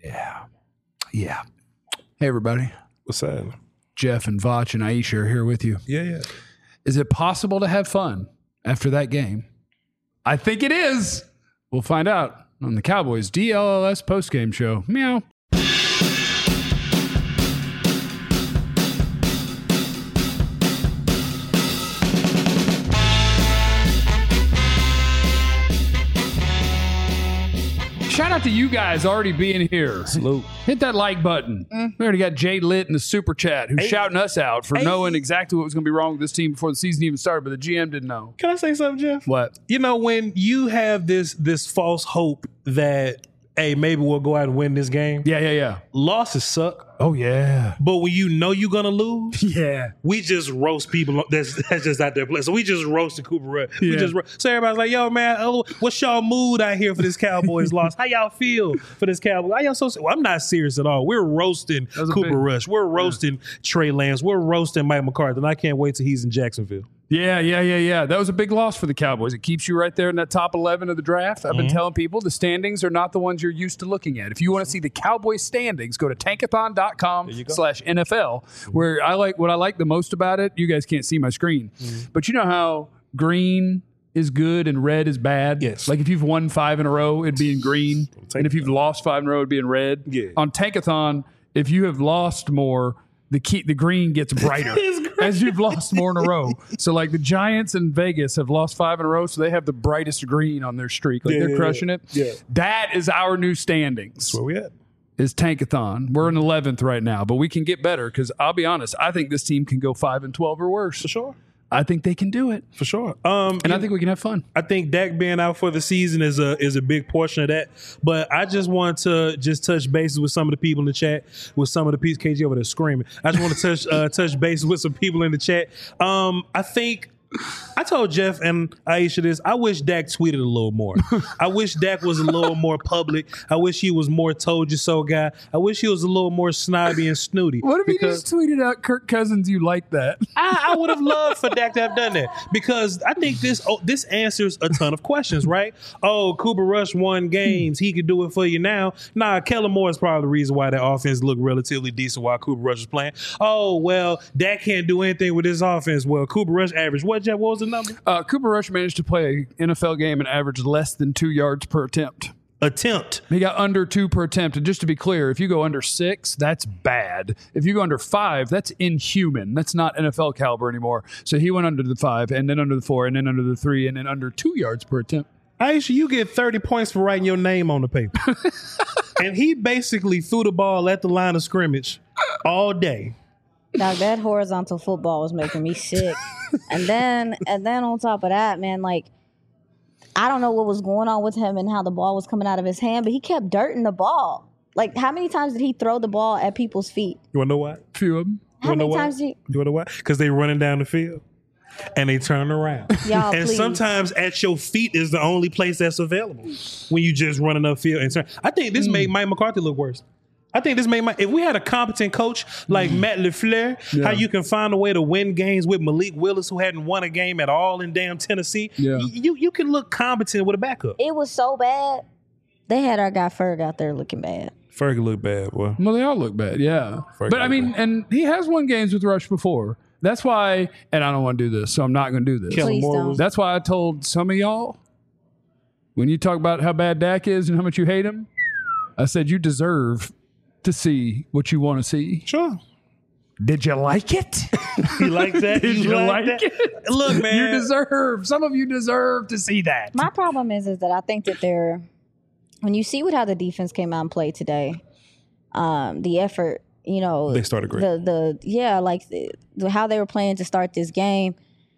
Yeah. Yeah. Hey, everybody. What's that? Jeff and Vach and Aisha are here with you. Yeah. Is it possible to have fun after that game? I think it is. We'll find out on the Cowboys DLLS postgame show. Meow. Shout out to you guys already being here. Salute. Hit that like button. We already got Jay Litt in the super chat who's shouting us out for knowing exactly what was going to be wrong with this team before the season even started, but the GM didn't know. Can I say something, Jeff? What? You know, when you have this false hope that, hey, maybe we'll go out and win this game. Yeah. Losses suck. Oh, yeah. But when you know you're going to lose, Yeah. we just roast people that's just out there playing. So we just roasted Cooper Rush. Yeah. So everybody's like, yo, man, what's y'all mood out here for this Cowboys loss? How y'all feel for this Cowboys? How y'all well, I'm not serious at all. We're roasting Cooper Rush. We're roasting Trey Lance. We're roasting Mike McCarthy. And I can't wait till he's in Jacksonville. Yeah. That was a big loss for the Cowboys. It keeps you right there in that top 11 of the draft. I've been telling people the standings are not the ones you're used to looking at. If you want to see the Cowboys standings, go to tankathon.com/NFL, where what I like the most about it, you guys can't see my screen, but you know how green is good and red is bad? Yes. Like if you've won 5 in a row, it'd be in green. And if you've lost 5 in a row, it'd be in red. Yeah. On Tankathon, if you have lost more, the green gets brighter as you've lost more in a row. So like the Giants in Vegas have lost 5 in a row, so they have the brightest green on their streak. Like they're crushing it. Yeah. That is our new standings. That's where we at. Is Tankathon. We're in 11th right now, but we can get better because I'll be honest, I think this team can go 5-12 or worse. For sure. I think they can do it. For sure. And I think we can have fun. I think Dak being out for the season is a big portion of that. But I just want to touch bases with some of the people in the chat, with some of the people, KG over there screaming. I just want to touch bases with some people in the chat. I think I told Jeff and Aisha this. I wish Dak tweeted a little more. I wish Dak was a little more public. I wish he was more told you so guy. I wish he was a little more snobby and snooty. What if he just tweeted out Kirk Cousins, you like that? I would have loved for Dak to have done that because I think this answers a ton of questions, right? Oh, Cooper Rush won games. He could do it for you now. Nah, Kellen Moore is probably the reason why that offense looked relatively decent while Cooper Rush was playing. Oh, well, Dak can't do anything with his offense. Well, Cooper Rush averaged what, Jeff? What was the number? Cooper Rush managed to play an NFL game and average less than 2 yards per attempt. He got under 2 per attempt. And just to be clear, if you go under 6, that's bad. If you go under 5, that's inhuman. That's not NFL caliber anymore. So he went under the 5 and then under the 4 and then under the 3 and then under 2 yards per attempt. Aisha, you get 30 points for writing your name on the paper. And he basically threw the ball at the line of scrimmage all day. Now that horizontal football was making me sick. And then on top of that, man, like, I don't know what was going on with him and how the ball was coming out of his hand, but he kept dirting the ball. Like, how many times did he throw the ball at people's feet? You want to know why? A few of them. How many times did You want to know why? Because they running down the field. And they turn around. Y'all, and please. sometimes at your feet is the only place that's available when you just running upfield and turn. I think this made Mike McCarthy look worse. I think this made if we had a competent coach like Matt LaFleur, how you can find a way to win games with Malik Willis, who hadn't won a game at all in damn Tennessee. Yeah. You can look competent with a backup. It was so bad. They had our guy Ferg out there looking bad. Ferg looked bad, boy. Well, they all look bad, yeah. But I mean, and he has won games with Rush before. That's why, and I don't want to do this, so I'm not going to do this. Please don't. That's why I told some of y'all, when you talk about how bad Dak is and how much you hate him, I said you deserve to see what you want to see. Sure. Did you like it? You like that? Did you like that? it? Look, man. Some of you deserve to see that. My problem is that I think that when you see how the defense came out and played today, the effort, you know, they started great. How they were playing to start this game.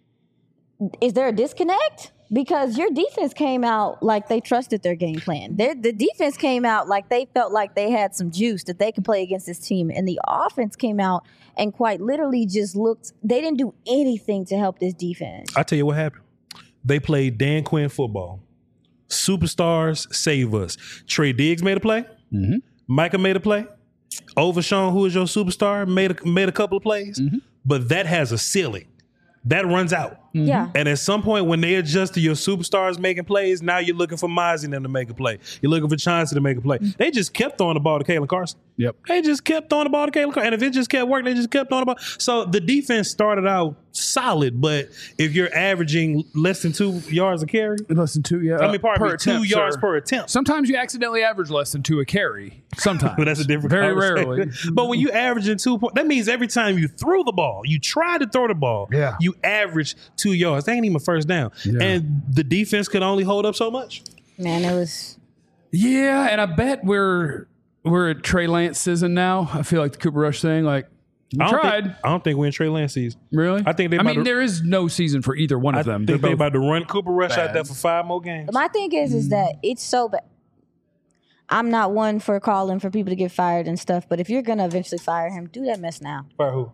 Is there a disconnect? Because your defense came out like they trusted their game plan. The defense came out like they felt like they had some juice that they could play against this team. And the offense came out and quite literally just they didn't do anything to help this defense. I'll tell you what happened. They played Dan Quinn football. Superstars save us. Trey Diggs made a play. Mm-hmm. Micah made a play. Overshawn, who is your superstar, made a couple of plays. Mm-hmm. But that has a ceiling. That runs out. Yeah. And at some point, when they adjust to your superstars making plays, now you're looking for Mozzie and them to make a play. You're looking for Chauncey to make a play. They just kept throwing the ball to Kalen Carson. Yep. They just kept throwing the ball to Kalen Carson. And if it just kept working, they just kept throwing the ball. So the defense started out solid, but if you're averaging less than 2 yards a carry, Less than 2, yeah. I mean, pardon me, 2 attempt, yards sir. per attempt. Sometimes you accidentally average less than 2 a carry. Sometimes. But that's a different Very conversation. rarely. But when you average in 2 points, that means every time you threw the ball, you try to throw the ball, Yeah. you average 2 yards. That ain't even a first down. Yeah. And the defense could only hold up so much. Man, it was. Yeah, and I bet we're at Trey Lance season now. I feel like the Cooper Rush thing, like, we tried. I don't think we're in Trey Lance season. Really? I think there is no season for either one of them. I think they're both about to run Cooper Rush out bad. there for 5 more games. My thing is that it's so bad. I'm not one for calling for people to get fired and stuff, but if you're gonna eventually fire him, do that mess now. Fire who?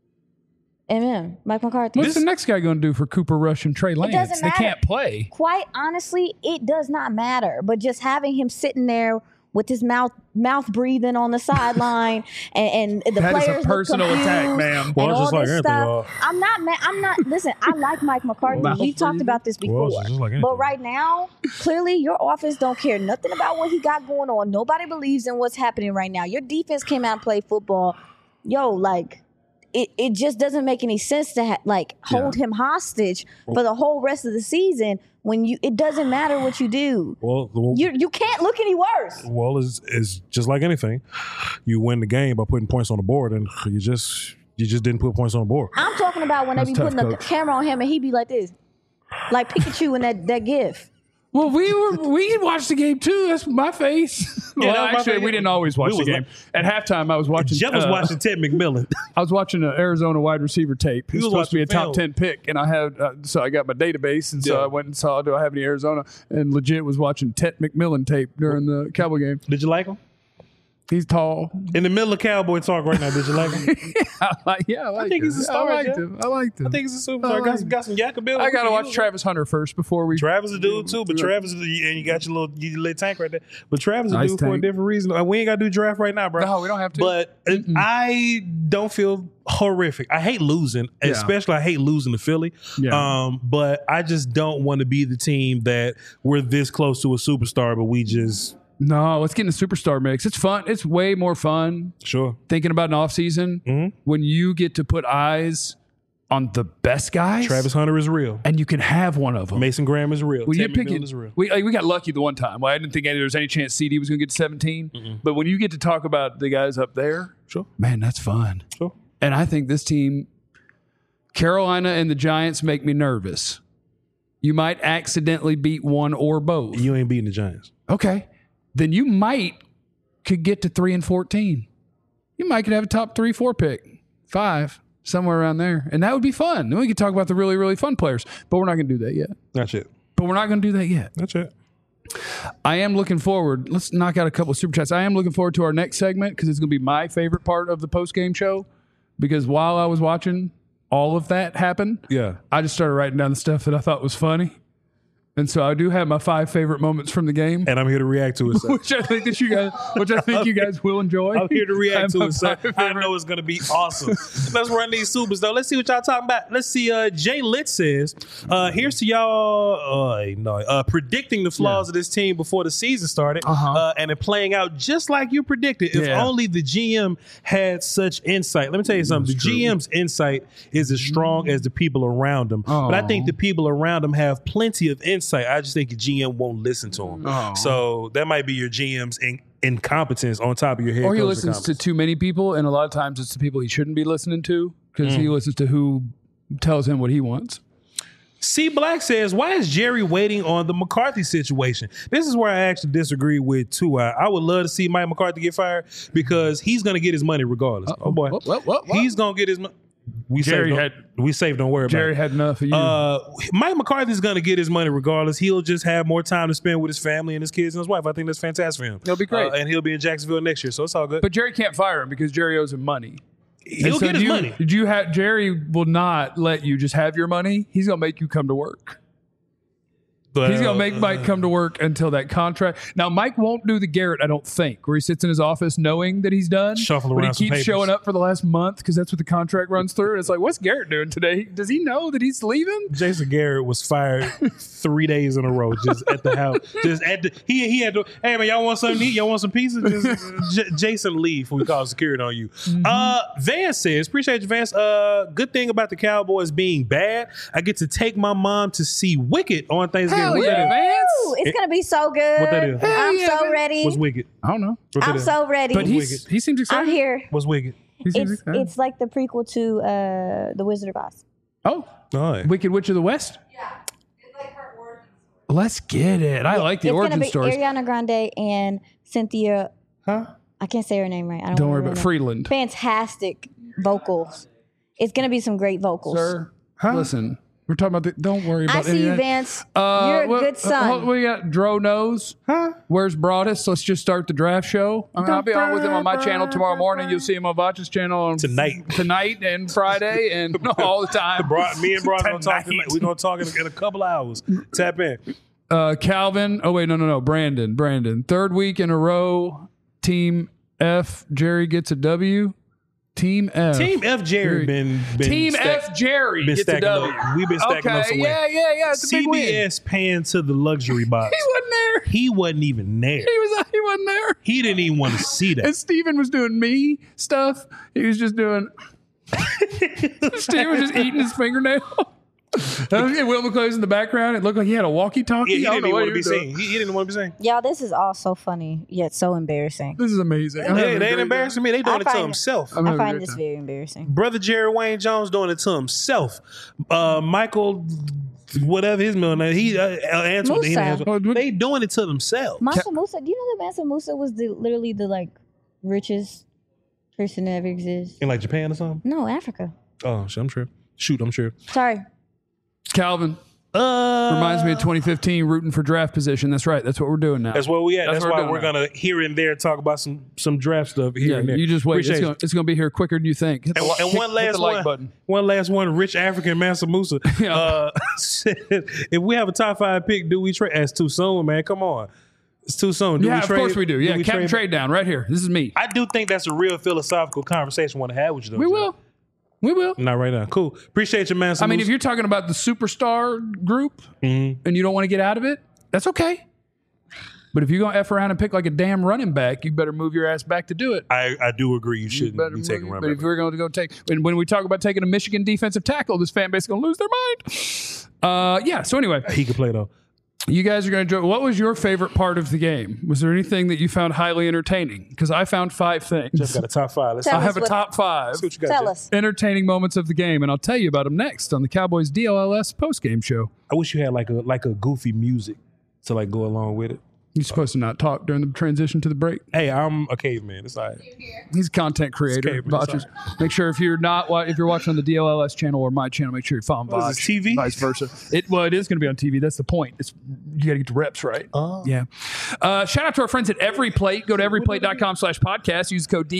Amen. Mike McCarthy. What's the next guy going to do for Cooper Rush and Trey Lance? doesn't They matter. can't play. Quite honestly, it does not matter. But just having him sitting there with his mouth breathing on the sideline and the That is a players personal look attack, confused ma'am. and Well, all just like this Anthony stuff. Hall. I'm not mad. Listen, I like Mike McCarthy. Mouth We've talked breathing. about this before. Well, just like Anthony. But right now, clearly your offense don't care nothing about what he got going on. Nobody believes in what's happening right now. Your defense came out and played football. Yo, like it just doesn't make any sense to hold him hostage for the whole rest of the season when it doesn't matter what you do. Well, You can't look any worse. Well, it's just like anything. You win the game by putting points on the board, and you just didn't put points on the board. I'm talking about when they That's be tough, putting the Coach. camera on him and he be like this. Like Pikachu in that gif. Well, we watched the game too. That's my face. Yeah, Well, that was my actually, face. we didn't always watch We the was game. At halftime, I was watching. Jeff was watching Ted McMillan. I was watching an Arizona wide receiver tape. He was was supposed to be a watching top film. 10 pick, and I had so I got my database, and so Yeah. I went and saw, do I have any Arizona? And legit was watching Ted McMillan tape during the Cowboy game. Did you like him? He's tall. In the middle of Cowboy talk right now, did you like him? I liked think he's a star, I liked Jeff. him. I liked him. I think he's a superstar. Got some yak ability. I gotta watch Travis Hunter first before we. Travis a dude too, but Travis and you got your little tank right there. But Travis a Nice dude for a tank. different reason. We ain't got to do draft right now, bro. No, we don't have to. But I don't feel horrific. I hate losing, Yeah. especially I hate losing to Philly. Yeah. But I just don't want to be the team that we're this close to a superstar, but we just No, let's get in the superstar mix. It's fun. It's way more fun sure. thinking about an offseason when you get to put eyes on the best guys. Travis Hunter is real. And you can have one of them. Mason Graham is real. When Ted you pick McMillan it, is real. we got lucky the one time. Well, I didn't think there was any chance CD was going to get to 17. But when you get to talk about the guys up there, Sure. man, that's fun. Sure. And I think this team, Carolina and the Giants, make me nervous. You might accidentally beat one or both. You ain't beating the Giants. Okay. Then you could get to 3-14. You might could have a top 3-4 pick, 5, somewhere around there. And that would be fun. Then we could talk about the really, really fun players. But we're not going to do that yet. That's it. That's it. I am looking forward. Let's knock out a couple of super chats. I am looking forward to our next segment because it's going to be my favorite part of the post-game show. Because while I was watching all of that happen, I just started writing down the stuff that I thought was funny. And so I do have my 5 favorite moments from the game, And I'm here to react to it. So. which I think you guys will enjoy. I'm here to react to My it, so 5 I know it's going to be awesome. Let's run these supers, though. Let's see what y'all talking about. Let's see. Jay Litt says, here's to y'all predicting the flaws of this team before the season started and it playing out just like you predicted. If only the GM had such insight. Let me tell you something. The GM's insight is as strong as the people around him. But I think the people around him have plenty of insight. I just think the GM won't listen to him. So that might be your GM's incompetence on top of your head. Or he listens to too many people, and a lot of times it's the people he shouldn't be listening to because he listens to who tells him what he wants. C Black says, why is Jerry waiting on the McCarthy situation? This is where I actually disagree with Tua. I would love to see Mike McCarthy get fired because he's going to get his money regardless. Oh, boy. What? He's going to get his money. We Jerry saved, don't worry about it. Jerry had enough of you. Mike McCarthy's going to get his money regardless. He'll just have more time to spend with his family and his kids and his wife. I think that's fantastic for him. It'll be great. And he'll be in Jacksonville next year, so it's all good. But Jerry can't fire him because Jerry owes him money. He'll get his money. Did you have Jerry will not let you just have your money. He's going to make you come to work. He's going to make Mike come to work until that contract. Now, Mike won't do the Garrett, I don't think, where he sits in his office knowing that he's done. Shuffle around but he keeps showing up for the last month because that's what the contract runs through. And it's like, what's Garrett doing today? Does he know that he's leaving? Jason Garrett was fired 3 days in a row just at the house. Just at the, he had to, hey, man, y'all want something to eat? Y'all want some pizza? Jason leave when we call security on you. Vance says, appreciate you, Vance. Good thing about the Cowboys being bad, I get to take my mom to see Wicked on Thanksgiving. Hell yeah, Vance. It's going to be so good. What that is? I'm so ready. What's Wicked? I don't know. I'm so ready. But he seems excited. I'm here. What's Wicked? It's like the prequel to The Wizard of Oz. Oh. All right. Wicked Witch of the West? Yeah. It's like her origin story. Let's get it. I like the origin stories. It's going to be Ariana Grande and Cynthia. Huh? I can't say her name right. I Don't worry about Freeland. Fantastic vocals. It's going to be some great vocals. Sir, listen. We're talking about don't worry about I see you, Vance. You're a good son. We got Dro Knows. Huh? Where's Broadus? Let's just start the draft show. I mean, I'll be on with him on my channel tomorrow morning. You'll see him on Vacha's channel on tonight and Friday and all the time. Me and Broadus we're gonna talk in a couple hours. Tap in. Calvin. Oh wait, no. Brandon. Third week in a row. Team F. Jerry gets a W. Team F. Jerry been Team F. Jerry gets a W. We've been stacking up some Yeah. It's a big win. CBS paying to the luxury box. He wasn't there. He wasn't even there. He wasn't there. He didn't even want to see that. And Steven was doing me stuff. He was just doing. Steven was just eating his fingernail. And Will McClay's in the background. It looked like he had a walkie-talkie. He didn't want to be seen. He didn't want to be seen. Y'all, this is all so funny yet so embarrassing. This is amazing. They ain't embarrassing me. They doing it to himself. I find this very embarrassing. Brother Jerry Wayne Jones doing it to himself. Michael, whatever his middle name, they doing it to themselves. Mansa Musa, do you know that Mansa Musa was literally the richest person that ever existed? In like Japan or something? No, Africa. Oh, I'm sure. I'm sure. Sorry. Calvin. Reminds me of 2015 rooting for draft position. That's right. That's what we're doing now. That's where we at. That's why we're going to here and there talk about some draft stuff here and there. You just wait. It's going to be here quicker than you think. And one last one. Button. One last one. Rich African Mansa Musa. Said, if we have a top 5 pick, do we trade? That's too soon, man. Come on. It's too soon. Of course we do. Yeah, Captain Trade Down right here. This is me. I do think that's a real philosophical conversation I want to have with you, though. We will. Not right now. Cool. Appreciate you, man. I mean, if you're talking about the superstar group and you don't want to get out of it, that's okay. But if you're going to F around and pick like a damn running back, you better move your ass back to do it. I do agree. You shouldn't be taking running back. But if we're going to go take, when we talk about taking a Michigan defensive tackle, this fan base is going to lose their mind. So anyway. He can play, though. You guys are going to enjoy. What was your favorite part of the game? Was there anything that you found highly entertaining? Because I found 5 things. Jeff got a top 5. I have a top 5. Let's see what you got, Tell Jeff. us. Entertaining moments of the game, and I'll tell you about them next on the Cowboys DLLS postgame show. I wish you had like a goofy music to go along with it. You're supposed to not talk during the transition to the break. Hey, I'm a caveman. It's all right. He's a content creator. Right. Make sure if you're watching on the DLLS channel or my channel, make sure you're following Vach. Is TV? Vice versa. It is going to be on TV. That's the point. You got to get the reps right. Oh. Yeah. Shout out to our friends at Every Plate. Go to everyplate.com/podcast. Use code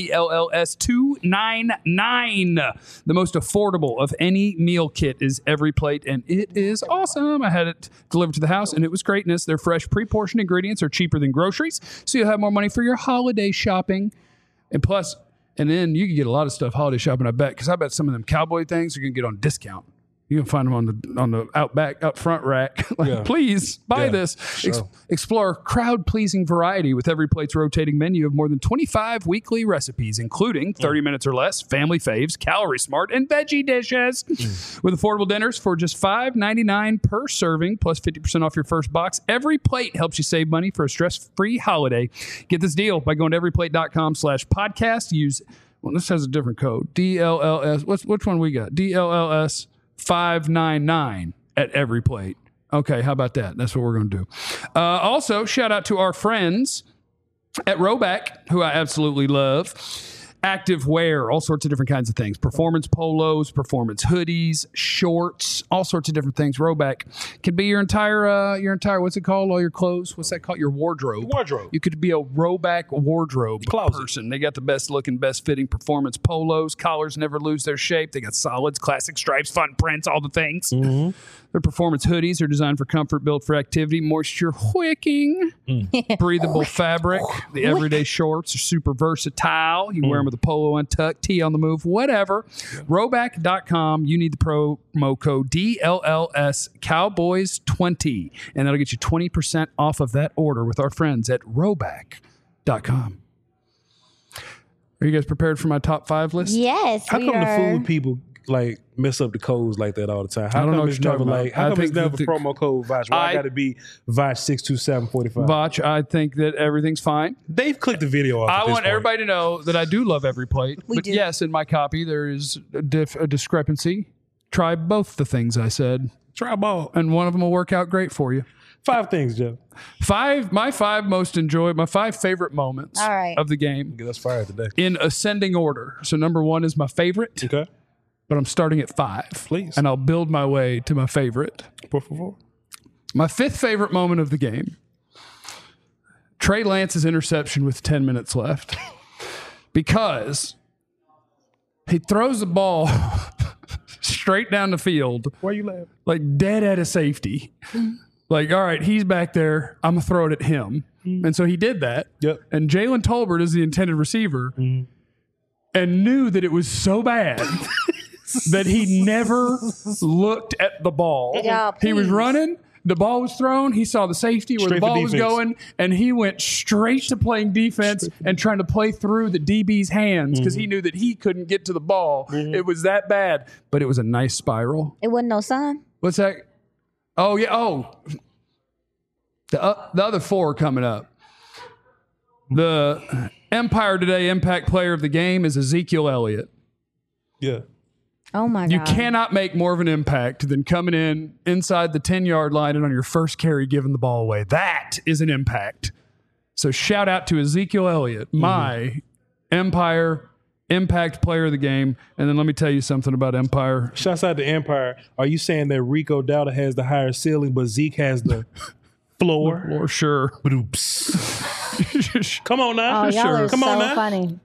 DLLS299. The most affordable of any meal kit is Every Plate, and it is awesome. I had it delivered to the house, and it was greatness. Their fresh, pre-portioned ingredients are cheaper than groceries, so you'll have more money for your holiday shopping. And then you can get a lot of stuff holiday shopping, I bet, because I bet some of them cowboy things are going to get on discount. You can find them on the out front rack. Please buy this. Sure. Explore crowd-pleasing variety with Every Plate's rotating menu of more than 25 weekly recipes, including 30 minutes or less, family faves, calorie smart, and veggie dishes. With affordable dinners for just $5.99 per serving, plus 50% off your first box. Every Plate helps you save money for a stress-free holiday. Get this deal by going to everyplate.com/podcast. This has a different code. DLLS. Which one we got? DLLS 599 at Every Plate. Okay, how about that? That's what we're going to do. Also, shout out to our friends at Roback, who I absolutely love. active wear, all sorts of different kinds of things. Performance polos, performance hoodies, shorts, all sorts of different things. Rhoback can be your entire, what's it called? All your clothes. What's that called? Your wardrobe. You could be a Rhoback wardrobe person. They got the best looking, best fitting performance polos. Collars never lose their shape. They got solids, classic stripes, fun prints, all the things. Their performance hoodies are designed for comfort, built for activity, moisture wicking, breathable fabric. The everyday shorts are super versatile. You can wear them with a polo untucked, tee on the move, whatever. Rhoback.com. You need the promo code DLLS Cowboys 20, and that'll get you 20% off of that order with our friends at Rhoback.com. Are you guys prepared for my top 5 list? Yes, How come the food people like mess up the codes like that all the time? How come it's never like? How come it's never promo code Vach? Why got to be Vach 62745? Vach, I think that everything's fine. They've clicked the video off. I want everybody to know that I do love every plate. We do. Yes, in my copy there is a discrepancy. Try both the things I said. Try ball, and one of them will work out great for you. 5 things, Jeff. My 5 favorite moments of the game. That's fire today. In ascending order. So number 1 is my favorite. Okay. But I'm starting at 5. Please. And I'll build my way to my favorite. Por favor. My 5th favorite moment of the game. Trey Lance's interception with 10 minutes left. Because he throws the ball straight down the field. Why are you laughing? Like dead at a safety. Like, all right, he's back there. I'm going to throw it at him. And so he did that. Yep. And Jalen Tolbert is the intended receiver and knew that it was so bad that he never looked at the ball. Yeah, he was running. The ball was thrown. He saw the safety where the ball was going, and he went straight to playing defense and trying to play through the DB's hands because he knew that he couldn't get to the ball. It was that bad, but it was a nice spiral. It wasn't no sign. What's that? Oh, yeah. Oh, the other 4 are coming up. The Empire Today Impact Player of the Game is Ezekiel Elliott. Yeah. Oh, my God. You cannot make more of an impact than coming in inside the 10-yard line and on your first carry giving the ball away. That is an impact. So shout out to Ezekiel Elliott, my Empire Impact Player of the Game. And then let me tell you something about Empire. Shouts out to Empire. Are you saying that Rico Dowdle has the higher ceiling, but Zeke has the floor? Or sure. Come on now. Oh, y'all are Come on so now. funny.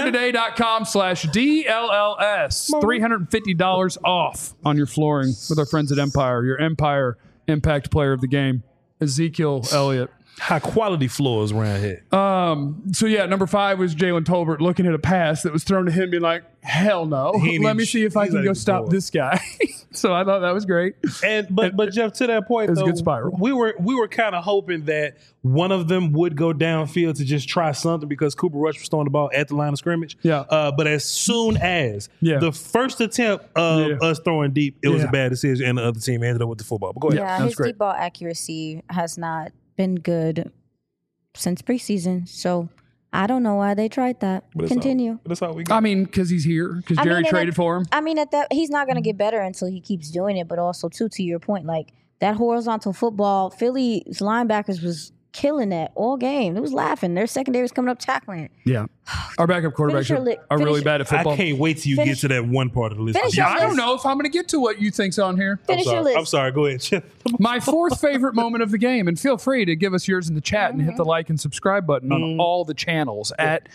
EmpireToday.com/DLLS. $350 off on your flooring with our friends at Empire. Your Empire Impact Player of the Game, Ezekiel Elliott. High quality floors around here. So yeah, number 5 was Jalen Tolbert looking at a pass that was thrown to him, being like, "Hell no! Let me see if I can go stop this guy." So I thought that was great. But Jeff, to that point, it's though, a good spiral. We were kind of hoping that one of them would go downfield to just try something because Cooper Rush was throwing the ball at the line of scrimmage. Yeah. But as soon as the first attempt of us throwing deep, it was a bad decision, and the other team ended up with the football. But go ahead. Yeah, his deep ball accuracy has not been good since preseason. So I don't know why they tried that. Continue. That's all we got. I mean, because he's here. Because Jerry traded for him. I mean, he's not going to get better until he keeps doing it. But also, too, to your point, like that horizontal football, Philly's linebackers was killing that all game. It was laughing. Their secondary was coming up tackling it. Yeah. Our backup quarterbacks are really bad at football. I can't wait till you get to that one part of the list. I don't know if I'm going to get to what you think's on here. Finish your list. I'm sorry. Go ahead, Chip. My 4th favorite moment of the game, and feel free to give us yours in the chat and hit the like and subscribe button on all the channels at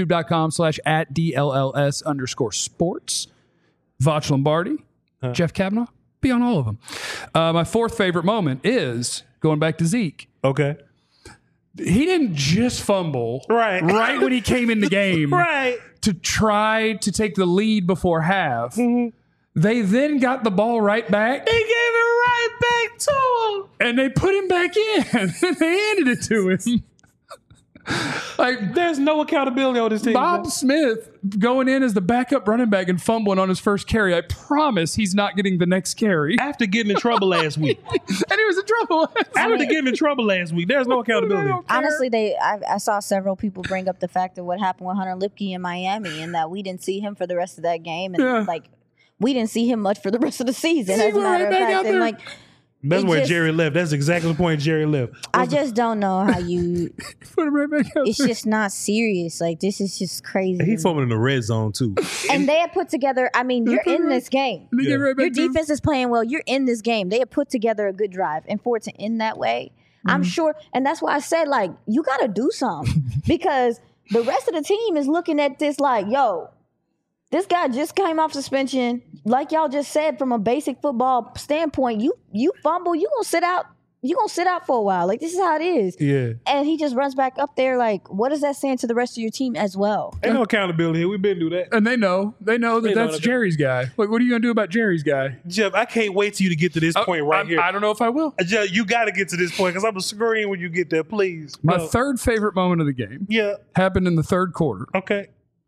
youtube.com/@DLLS_sports. Vach Lombardi, Jeff Kavanaugh, be on all of them. My 4th favorite moment is going back to Zeke. Okay. He didn't just fumble right when he came in the game to try to take the lead before half. They then got the ball right back. They gave it right back to him. And they put him back in. They handed it to him. Like, there's no accountability on this team. Bob Smith going in as the backup running back and fumbling on his first carry. I promise he's not getting the next carry. After getting in trouble last week. And he was in trouble. After getting in trouble last week. There's no accountability. Honestly, I saw several people bring up the fact of what happened with Hunter Lipke in Miami and that we didn't see him for the rest of that game. And like, we didn't see him much for the rest of the season. As a matter of fact. And like, That's where Jerry left. That's exactly the point Jerry left. I just don't know how you. Put him right back out It's there. just not serious. Like, this is just crazy. He's foaming in the red zone too. And they had put together. I mean, you're in this game. Let me get right back Your to him. defense is playing well. You're in this game. They had put together a good drive, and for it to end that way, I'm sure. And that's why I said, like, you got to do something because the rest of the team is looking at this like, yo, this guy just came off suspension. Like y'all just said, from a basic football standpoint, you fumble, you gonna sit out. You gonna sit out for a while. Like, this is how it is. Yeah. And he just runs back up there. Like, what is that saying to the rest of your team as well? Ain't no accountability here. We've been through that. And they know that that's Jerry's guy. Like, what are you gonna do about Jerry's guy? Jeff, I can't wait till you to get to this point right here. I don't know if I will. Jeff, you got to get to this point because I'm going to scream when you get there, please. My No. third favorite moment of the game Yeah. happened in the third quarter. Okay.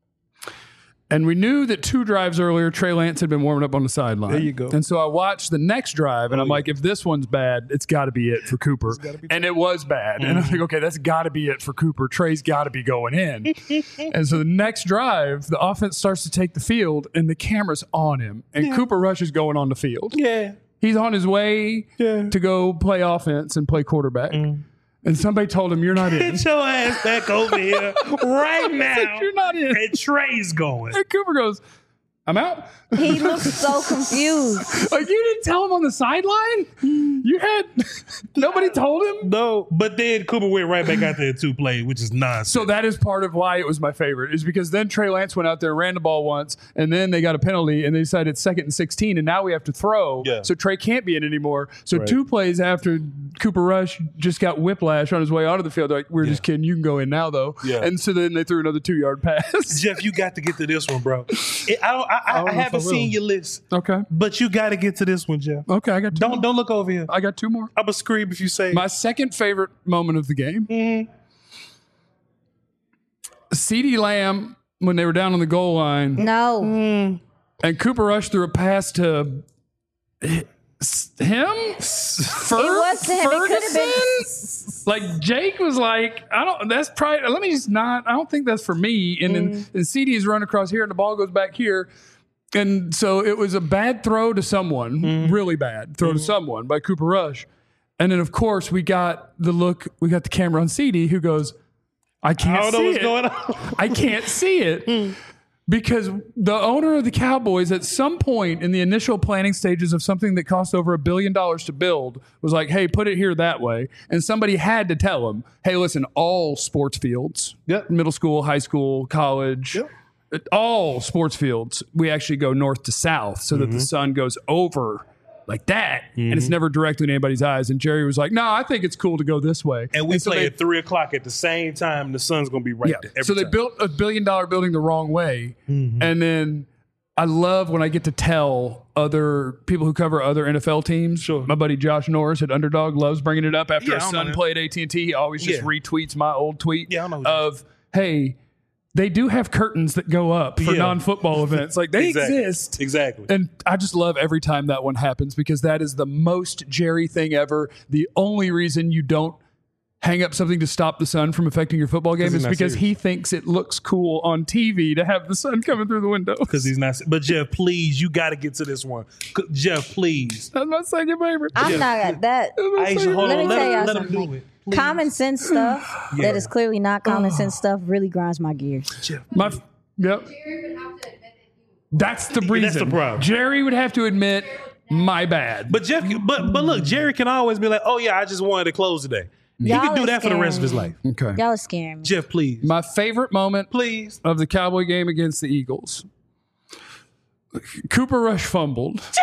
And we knew that 2 drives earlier, Trey Lance had been warming up on the sideline. There you go. And so I watched the next drive, and I'm like, if this one's bad, it's got to be it for Cooper. And it was bad. And I'm like, okay, that's got to be it for Cooper. Trey's got to be going in. And so the next drive, the offense starts to take the field, and the camera's on him. And Cooper Rush is going on the field. Yeah. He's on his way Yeah. to go play offense and play quarterback. And somebody told him, you're not in. Get your ass back over here right now. You're not in. And Trey's going. And Cooper goes, I'm out. He looks so confused. Like, you didn't tell him on the sideline? You had nobody told him? No, but then Cooper went right back out there to play, which is nonsense. So that is part of why it was my favorite, is because then Trey Lance went out there, ran the ball once, and then they got a penalty, and they decided it's 2nd and 16, and now we have to throw. Yeah. So Trey can't be in anymore. So Right. 2 plays after Cooper Rush just got whiplash on his way onto the field, they're like, we're just kidding. You can go in now, though. Yeah. And so then they threw another 2-yard pass. Jeff, you got to get to this one, bro. I haven't seen your list, Okay. but you got to get to this one, Jeff. Okay, I got 2 more. Don't look over here. I got 2 more. I'm going to scream if you say My second favorite moment of the game, CeeDee Lamb, when they were down on the goal line, No. and Cooper Rush threw a pass to him? It was to him. It could have been. Like, Jake was like, that's probably, let me just not, I don't think that's for me. And then CD's run across here and the ball goes back here. And so it was a bad throw to someone, really bad throw to someone by Cooper Rush. And then, of course, we got the camera on CD who goes, I can't see it. Going on. I can't see it. Because the owner of the Cowboys, at some point in the initial planning stages of something that cost over $1 billion to build, was like, hey, put it here that way. And somebody had to tell him, hey, listen, all sports fields, middle school, high school, college, all sports fields, we actually go north to south so that the sun goes over like that, and it's never directly in anybody's eyes. And Jerry was like, no, I think it's cool to go this way. And we play at 3 o'clock at the same time. The sun's going to be right there. So they built $1 billion building the wrong way. And then I love when I get to tell other people who cover other NFL teams. Sure. My buddy Josh Norris at Underdog loves bringing it up after Yeah, his I know son him. played AT&T. He always just retweets my old tweet Yeah, I know who that of, hey, they do have curtains that go up for non-football events. Like, they exist. Exactly. And I just love every time that one happens because that is the most Jerry thing ever. The only reason you don't hang up something to stop the sun from affecting your football game is because he thinks it looks cool on TV to have the sun coming through the window. Because he's not. But Jeff, please, you got to get to this one. Jeff, please. That's my second favorite. I'm not at that. Aisha, hold Let on. me tell y'all Let him something. do it. Please. Common sense stuff that is clearly not common sense stuff really grinds my gears. Jeff, Yep. Jerry would have to admit that That's the reason. That's the problem. Jerry would have to admit, my bad. But Jeff, but look, Jerry can always be like, "Oh yeah, I just wanted to close today." He Y'all can do are that for the rest of his scaring life. Okay. Y'all are scaring me. Jeff, please, My favorite moment please. of the Cowboy game against the Eagles. Cooper Rush fumbled.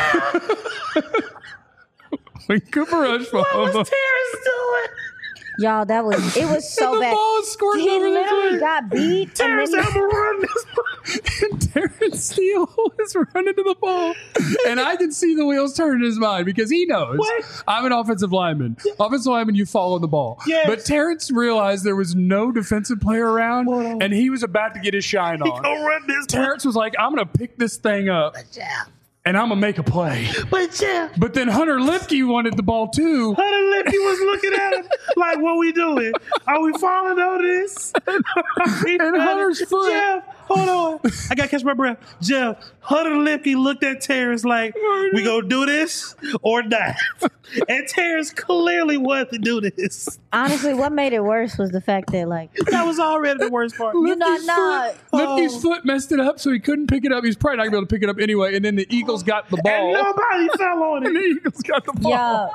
When Cooper Rush fumbled. Y'all, it was so the bad. ball is squirting He over the literally field. got beat. Terrence and then Allen run this. And Terrence Steele is running to the ball. And I can see the wheels turn in his mind because he knows I'm an offensive lineman. Offensive lineman, you follow the ball. Yes. But Terrence realized there was no defensive player around, and he was about to get his shine on. Go run this. Terrence was like, I'm going to pick this thing up, and I'm going to make a play. But Jeff, But then Hunter Lipke wanted the ball too. Hunter Lipke was looking at him like, "What we doing? Are we falling on this?" And Hunter's foot hold on. I got to catch my breath. Jeff, Hunter Lipke looked at Terrence like, we going to do this or not? And Terrence clearly wanted to do this. Honestly, what made it worse was the fact that, like, That was already the worst part. Lipke's foot messed it up, so he couldn't pick it up. He's probably not going to be able to pick it up anyway. And then the Eagles got the ball. And nobody fell on And the it. Eagles got the ball. yeah,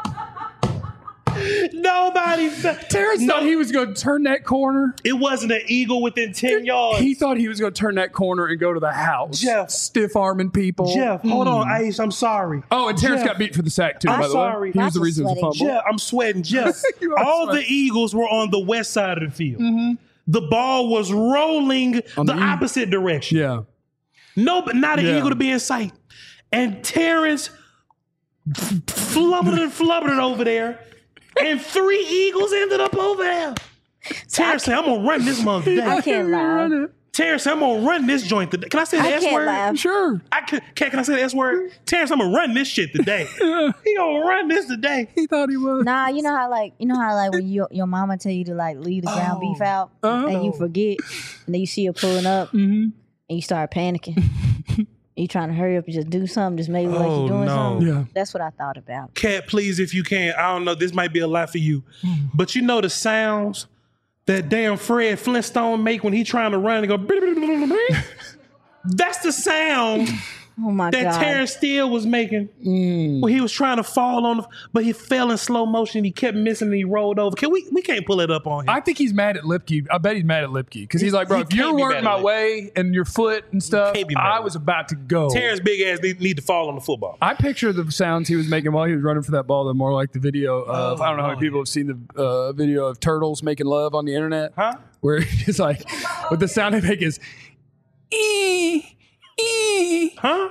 Nobody fell. Terrence thought he was going to turn that corner. It wasn't an eagle within 10 yards. He thought he was going to turn that corner and go to the house. Jeff. Stiff arming people. Jeff, hold on, Ace. I'm sorry. Oh, and Terrence Jeff. got beat for the sack, too, I'm by the sorry. way. He was the Not reason it was a just fumble. Jeff, I'm sweating. Jeff, You are all sweating. the Eagles were on the west side of the field. The ball was rolling On the the opposite direction. Yeah. No, but not an Yeah. eagle to be in sight. And Terrence flubbered it over there. And 3 eagles ended up over there. Terrence said, I'm going to run this month today. I can't lie. Terrence said, I'm going to run this joint today. Can I say the I S can't word? laugh. Sure. Can I say the S word? Terrence, I'm going to run this shit today. He going to run this today. He thought he was. Nah, you know how when your mama tell you to like leave the ground beef out and you forget, and then you see her pulling up and you start panicking. You trying to hurry up and just do something, just maybe like you're doing something. Yeah. That's what I thought about. Cat, please, if you can. I don't know. This might be a lot for you. But you know the sounds that damn Fred Flintstone make when he trying to run and go. That's the sound Oh my that god! Terrence Steele was making when he was trying to fall on, but he fell in slow motion. He kept missing and he rolled over. We can't pull it up on him. I think he's mad at Lipke. I bet he's mad at Lipke because he's like, bro, He if you can't be weren't mad at my Lipke. way and your foot and stuff, can't be mad I at was Lipke. about to go. Terrence big ass need to fall on the football. I picture the sounds he was making while he was running for that ball. They're more like the video of, I don't know how many people have seen the video of turtles making love on the internet. Huh? Where it's like, what the sound they make is, Huh?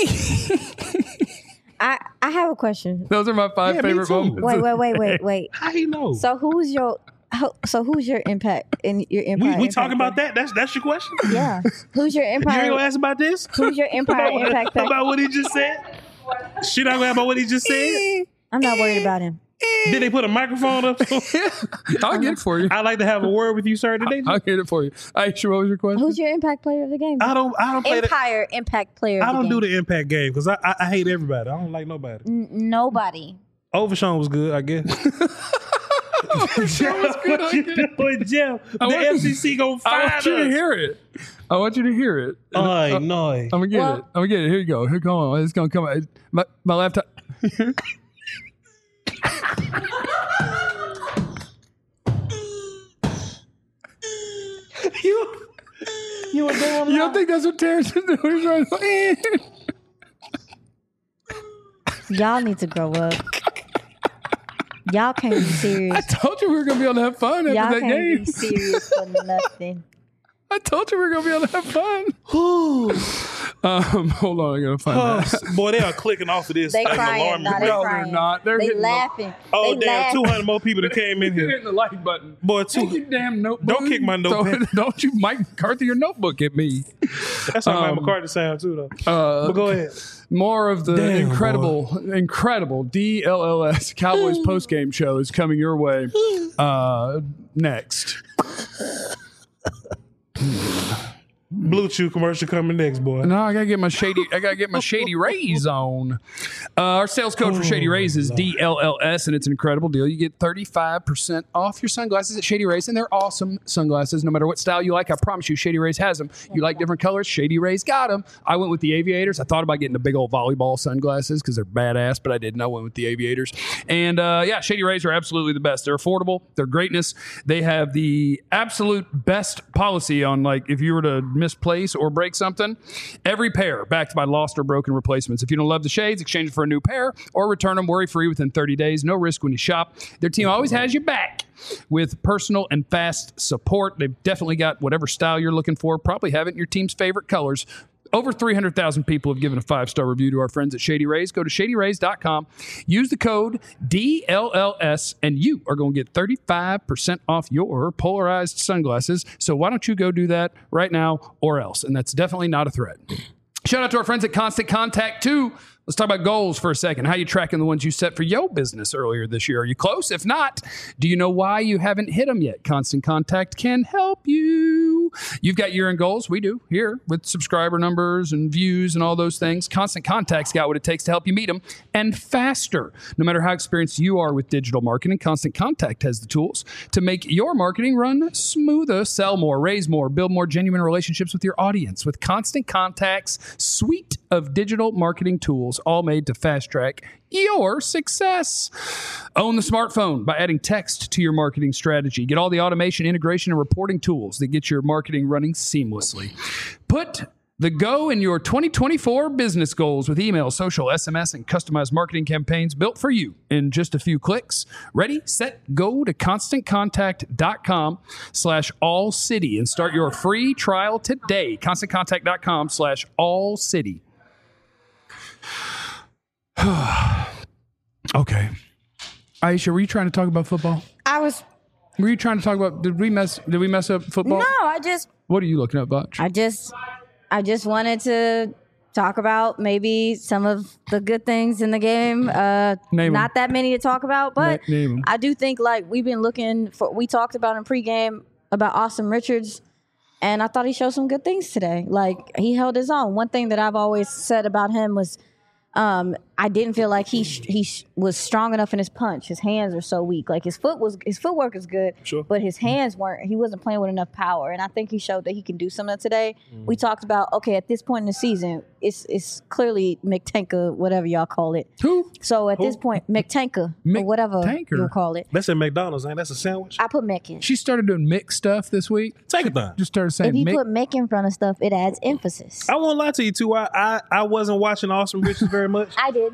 I have a question. Those are my 5 Yeah, me favorite too. moments. Wait. How he know? So who's your impact in your empire? we talking about that? That's your question? Yeah. Who's your You ain't gonna empire? ask about this? Who's your empire impact player? About what he just said? She not gonna ask about what he just said? I'm not worried about him. Did they put a microphone up? I'll get it for you. I'd like to have a word with you, sir, today. I'll get it for you. Aisha, what was your question? Who's your impact player of the game? I don't play that. Empire impact player. I of don't the do game. the impact game because I hate everybody. I don't like nobody. Nobody. Overshawn was good, I guess. That was good. I get it. With Jeff, the want- FCC gonna I find want you to us. hear it. I want you to hear it. No. I'm gonna get Well- it. I'm gonna get it. Here you go. Here, come on. It's gonna come out. My laptop. You a damn You don't think that's what Terrence is doing? He's right. Y'all need to grow up. Y'all can't be I serious. told you we were gonna be able to have fun after Y'all that can't game. be serious for nothing. I told you we were gonna be able to have fun. Hold on, I gotta find that. Boy, they are clicking off of this. They like an crying. alarm. Nah, they No, crying. they're not. They're They hitting laughing. Oh, they damn, laughing. 200 more people that came in You're here. hitting the like button. Boy, Take your damn notebook. Don't kick my notepad. Don't you Mike McCarthy your notebook at me. That's how Mike McCarthy sound too, though. But go ahead. More of the Damn, incredible DLLS Cowboys postgame show is coming your way next. Blue Chew commercial coming next, boy. No, I gotta get my Shady Rays on. Our sales code for Shady Rays is DLLS, and it's an incredible deal. You get 35% off your sunglasses at Shady Rays, and they're awesome sunglasses. No matter what style you like, I promise you, Shady Rays has them. You like different colors? Shady Rays got them. I went with the Aviators. I thought about getting the big old volleyball sunglasses because they're badass, but I didn't. I went with the Aviators. And yeah, Shady Rays are absolutely the best. They're affordable. They're greatness. They have the absolute best policy on, like, if you were to misplace or break something, every pair backed by lost or broken replacements. If you don't love the shades, exchange it for a new pair or return them worry-free within 30 days. No risk when you shop. Their team always has your back with personal and fast support. They've definitely got whatever style you're looking for. Probably have it in your team's favorite colors. Over 300,000 people have given a 5-star review to our friends at Shady Rays. Go to shadyrays.com. Use the code DLLS, and you are going to get 35% off your polarized sunglasses. So why don't you go do that right now or else? And that's definitely not a threat. Shout out to our friends at Constant Contact 2. Let's talk about goals for a second. How you tracking the ones you set for your business earlier this year? Are you close? If not, do you know why you haven't hit them yet? Constant Contact can help you. You've got year-end goals. We do here with subscriber numbers and views and all those things. Constant Contact's got what it takes to help you meet them and faster. No matter how experienced you are with digital marketing, Constant Contact has the tools to make your marketing run smoother, sell more, raise more, build more genuine relationships with your audience. With Constant Contact's suite of digital marketing tools, all made to fast track your success. Own the smartphone by adding text to your marketing strategy. Get all the automation, integration, and reporting tools that get your marketing running seamlessly. Put the go in your 2024 business goals with email, social, SMS, and customized marketing campaigns built for you in just a few clicks. Ready, set, go to ConstantContact.com/allcity and start your free trial today. ConstantContact.com/allcity. Okay. Aisha, were you trying to talk about football? Were you trying to talk about, did we mess up football? No, What are you looking at, Butch? I just wanted to talk about maybe some of the good things in the game. Not that many to talk about, but I do think we talked about in pregame about Austin Richards, and I thought he showed some good things today. He held his own. One thing that I've always said about him was I didn't feel like he was strong enough in his punch. His hands are so weak. His footwork is good, sure, but his hands weren't. He wasn't playing with enough power, and I think he showed that he can do some of that today. We talked about at this point in the season, it's clearly McTanker, whatever y'all call it. Who? So at this point, McTanker, or whatever you'll call it. That's at McDonald's, ain't that's a sandwich? I put Mc in. She started doing Mick stuff this week. Tankathon. Just started saying If you Mick. put Mc in front of stuff, it adds emphasis. I won't lie to you too. I wasn't watching Austin Richards very much. I did.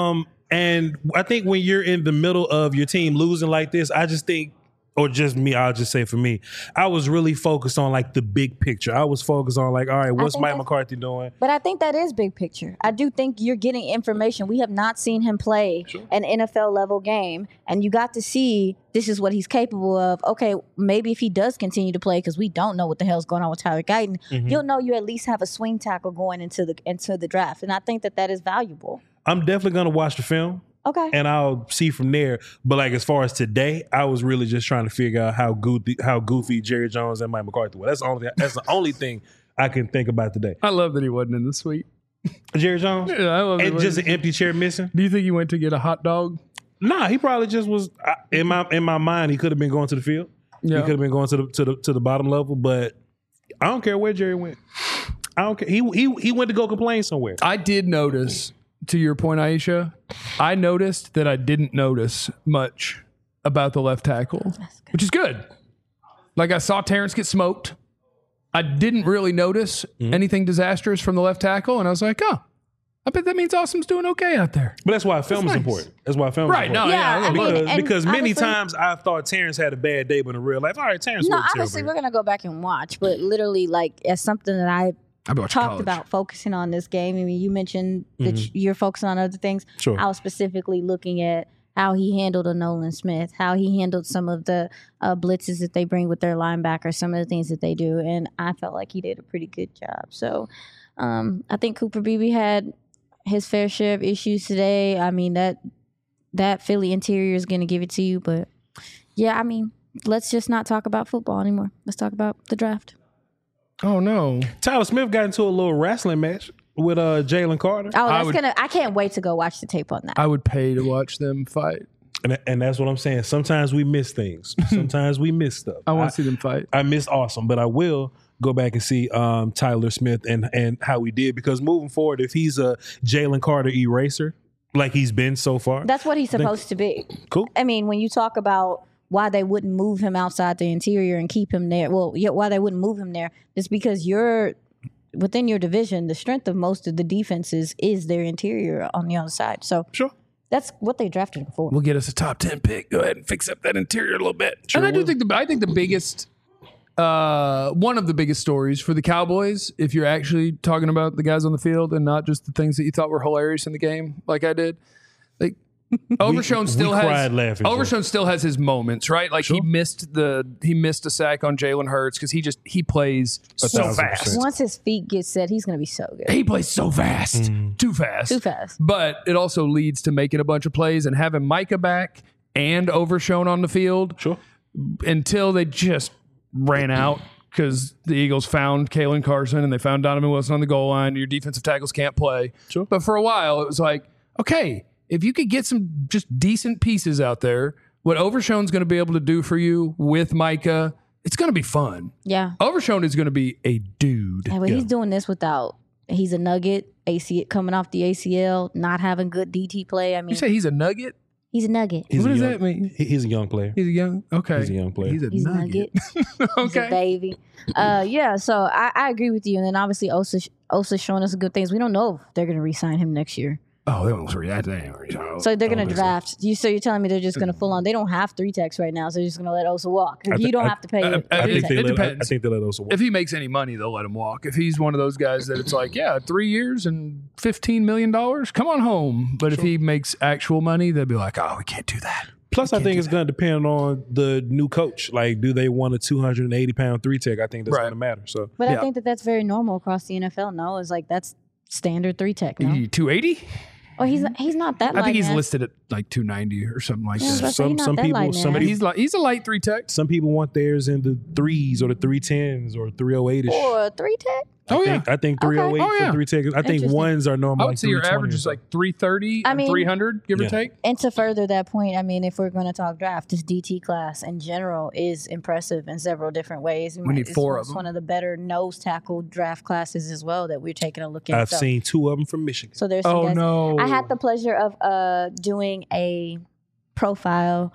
And I think when you're in the middle of your team losing like this, I just think, or just me, I'll just say for me, I was really focused on the big picture. I was focused on all right, what's Mike McCarthy doing? But I think that is big picture. I do think you're getting information. We have not seen him play an NFL level game, and you got to see this is what he's capable of. Okay, maybe if he does continue to play, because we don't know what the hell's going on with Tyler Guyton, you'll know you at least have a swing tackle going into the draft, and I think that is valuable. I'm definitely going to watch the film. Okay. And I'll see from there. But as far as today, I was really just trying to figure out how goofy Jerry Jones and Mike McCarthy were. That's the only thing I can think about today. I love that he wasn't in the suite. Jerry Jones? Yeah, I love it. And just an empty chair missing? Do you think he went to get a hot dog? Nah, he probably just was in my mind. He could have been going to the field. Yeah. He could have been going to the bottom level. But I don't care where Jerry went. I don't care. He went to go complain somewhere. I did notice. To your point, Aisha, I noticed that I didn't notice much about the left tackle, which is good. I saw Terrence get smoked. I didn't really notice anything disastrous from the left tackle, and I was like, oh, I bet that means Awesome's doing okay out there. But that's why film is important. That's why film is important. Because many times I've thought Terrence had a bad day, but in real life, all right, Terrence. No, obviously we're gonna go back and watch, but literally, as something that I talked about focusing on this game. I mean, you mentioned that you're focusing on other things. Sure. I was specifically looking at how he handled a Nolan Smith, how he handled some of the blitzes that they bring with their linebackers, some of the things that they do, and I felt like he did a pretty good job. So I think Cooper Beebe had his fair share of issues today. I mean, that Philly interior is going to give it to you, but yeah, I mean, let's just not talk about football anymore. Let's talk about the draft. Oh no! Tyler Smith got into a little wrestling match with Jalen Carter. Oh, I can't wait to go watch the tape on that. I would pay to watch them fight. And that's what I'm saying. Sometimes we miss things. Sometimes we miss stuff. I want to see them fight. I missed Awesome, but I will go back and see Tyler Smith and how he did, because moving forward, if he's a Jalen Carter eraser like he's been so far, that's what he's supposed to be. Cool. I mean, when you talk about why they wouldn't move him outside the interior and keep him there. Well, why they wouldn't move him there is because you're within your division. The strength of most of the defenses is their interior on the other side. So sure, that's what they drafted him for. We'll get us a top 10 pick. Go ahead and fix up that interior a little bit. Sure, and I think the biggest, one of the biggest stories for the Cowboys, if you're actually talking about the guys on the field and not just the things that you thought were hilarious in the game, like I did, Overshown still cried has laughing, Joe. Overshown still has his moments, right? Like he missed a sack on Jalen Hurts because he plays so 1,000%. fast. Once his feet get set, he's going to be so good. He plays so fast, too fast, Too fast. But it also leads to making a bunch of plays and having Micah back and Overshown on the field. Sure. Until they just ran out because the Eagles found Kalen Carson and they found Donovan Wilson on the goal line. Your defensive tackles can't play. Sure. But for a while, it was like, okay, if you could get some just decent pieces out there, what Overshown's going to be able to do for you with Micah, it's going to be fun. Yeah. Overshown is going to be a dude. And he's doing this without, he's a nugget, coming off the ACL, not having good DT play. I mean, You say he's a nugget? he's a nugget. What does that mean? He's a young player. He's a young, okay. He's a young player. He's a He's a nugget. nugget. He's a Okay. baby. Yeah, so I agree with you. And then obviously Osa's showing us good things. We don't know if they're going to re-sign him next year. Oh, they won't react to that. So they're going to draft. So you're telling me they're just going to full on. They don't have 3 techs right now, so they're just going to let Osa walk. You don't have to pay it. I think It they depends. let us walk. If he makes any money, they'll let him walk. If he's one of those guys that it's like, yeah, 3 years and $15 million, come on home. But if he makes actual money, they'll be like, oh, we can't do that. Plus, I think it's going to depend on the new coach. Like, do they want a 280-pound 3-tech? I think that's going to matter. So, But I think that's very normal across the NFL. No, it's like that's standard 3 tech. No, 280? oh, he's not that. I think he's light, man. listed at like 290 or something like Yeah, I was that. about to say, he's not some that people- light, some man. people- He's a light 3 tech. some people want theirs in the 3s or the 310s or 308ish. Or 3 tech. Oh, yeah. I think 308 Oh, yeah. for 3-tech. I think Interesting. ones are normal. I would like say your 320 average or is something. like 330 I and mean- 300, give or Yeah. take. And to further that point, I mean, if we're going to talk draft, this DT class in general is impressive in several different ways. We need 4 of It's them. one of the better nose tackle draft classes as well that we're taking a look at. I've seen 2 of them from Michigan. So there's some Oh, guys. no. I had the pleasure of doing a profile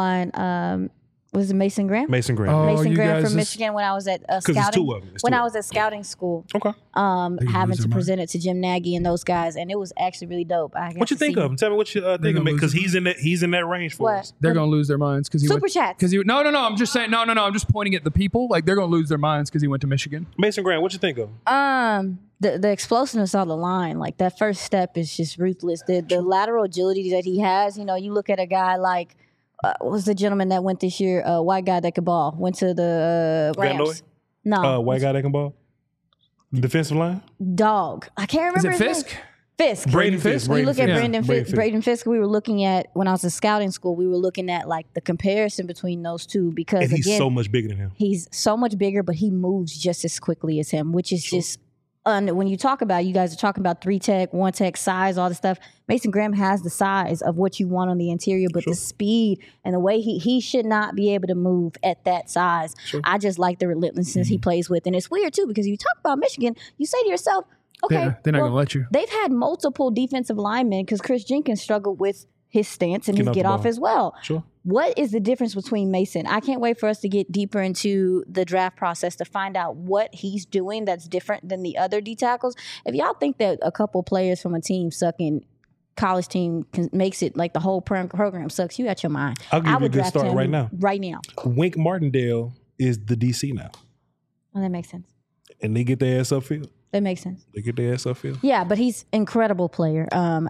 on was it Mason Graham? Mason Graham. Oh, Mason you Graham guys from is- Michigan when I was at it's scouting. 2 of them. It's When 2 I of was at scouting school, Okay. having lose to their present it to Jim Nagy and those guys, and it was actually really dope. I got What you to think see of him? Tell me what you think of gonna him because lose he's in that range for What? us. They're going to lose their minds because he Super went. chats. Because no. I'm just saying. No. I'm just pointing at the people. Like they're going to lose their minds because he went to Michigan. Mason Graham, what you think of him? The explosiveness on the line, like that first step is just ruthless. The lateral agility that he has, you know, you look at a guy like what was the gentleman that went this year, white guy that could ball, went to the Van Rams. Noy? No, White guy that can ball? Defensive line? dog. I can't Is remember it his Fisk? name. Fisk. Braden Fisk. We look at Braden Fisk. Braden Fisk. We were looking at when I was in scouting school. We were looking at like the comparison between those two because And he's again, so much bigger than him. he's so much bigger, but he moves just as quickly as him, which is just. When you talk about, you guys are talking about 3 tech, 1 tech, size, all this stuff. Mason Graham has the size of what you want on the interior, but the speed and the way he should not be able to move at that size. I just like the relentlessness he plays with, and it's weird too because you talk about Michigan, you say to yourself, okay, They're not going to let you. They've had multiple defensive linemen because Chris Jenkins struggled with his stance and his Get off get the off ball. as well. Sure. What is the difference between Mason? I can't wait for us to get deeper into the draft process to find out what he's doing that's different than the other D tackles. If y'all think that a couple players from a team sucking college team makes it like the whole program sucks, you got your mind. I'll give I you a would good draft start him right now. Right now. Wink Martindale is the DC now. Well, that makes sense. And they get their ass upfield. That makes sense. They get their ass upfield. Yeah, but he's incredible player. And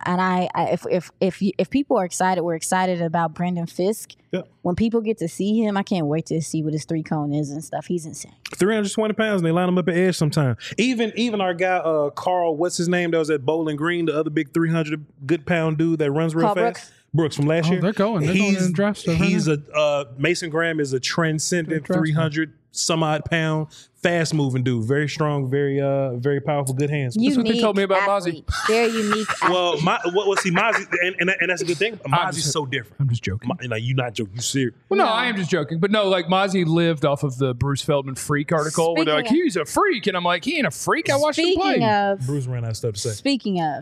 if people are excited, we're excited about Brandon Fisk. Yeah. When people get to see him, I can't wait to see what his 3 cone is and stuff. He's insane. 320 pounds, and they line him up at edge sometime. Even our guy, Carl, what's his name, that was at Bowling Green, the other big 300 good pound dude that runs real Carl fast. Brooks from last year. They're going in draft stuff. He's Mason Graham is a transcendent Draft 300 some odd pound, fast moving dude. Very strong, very powerful, good hands. what they told me about athlete. Very unique. Well, Mozzie, and that's a good thing. Mozzie's so different. I'm just joking. Like, you not joking, you serious. Well, no, I am just joking. But no, like Mozzie lived off of the Bruce Feldman freak article where they're like, Speaking he's a freak. And I'm like, he ain't a freak. I watched him Speaking play. of, Bruce ran out of stuff to say. speaking of,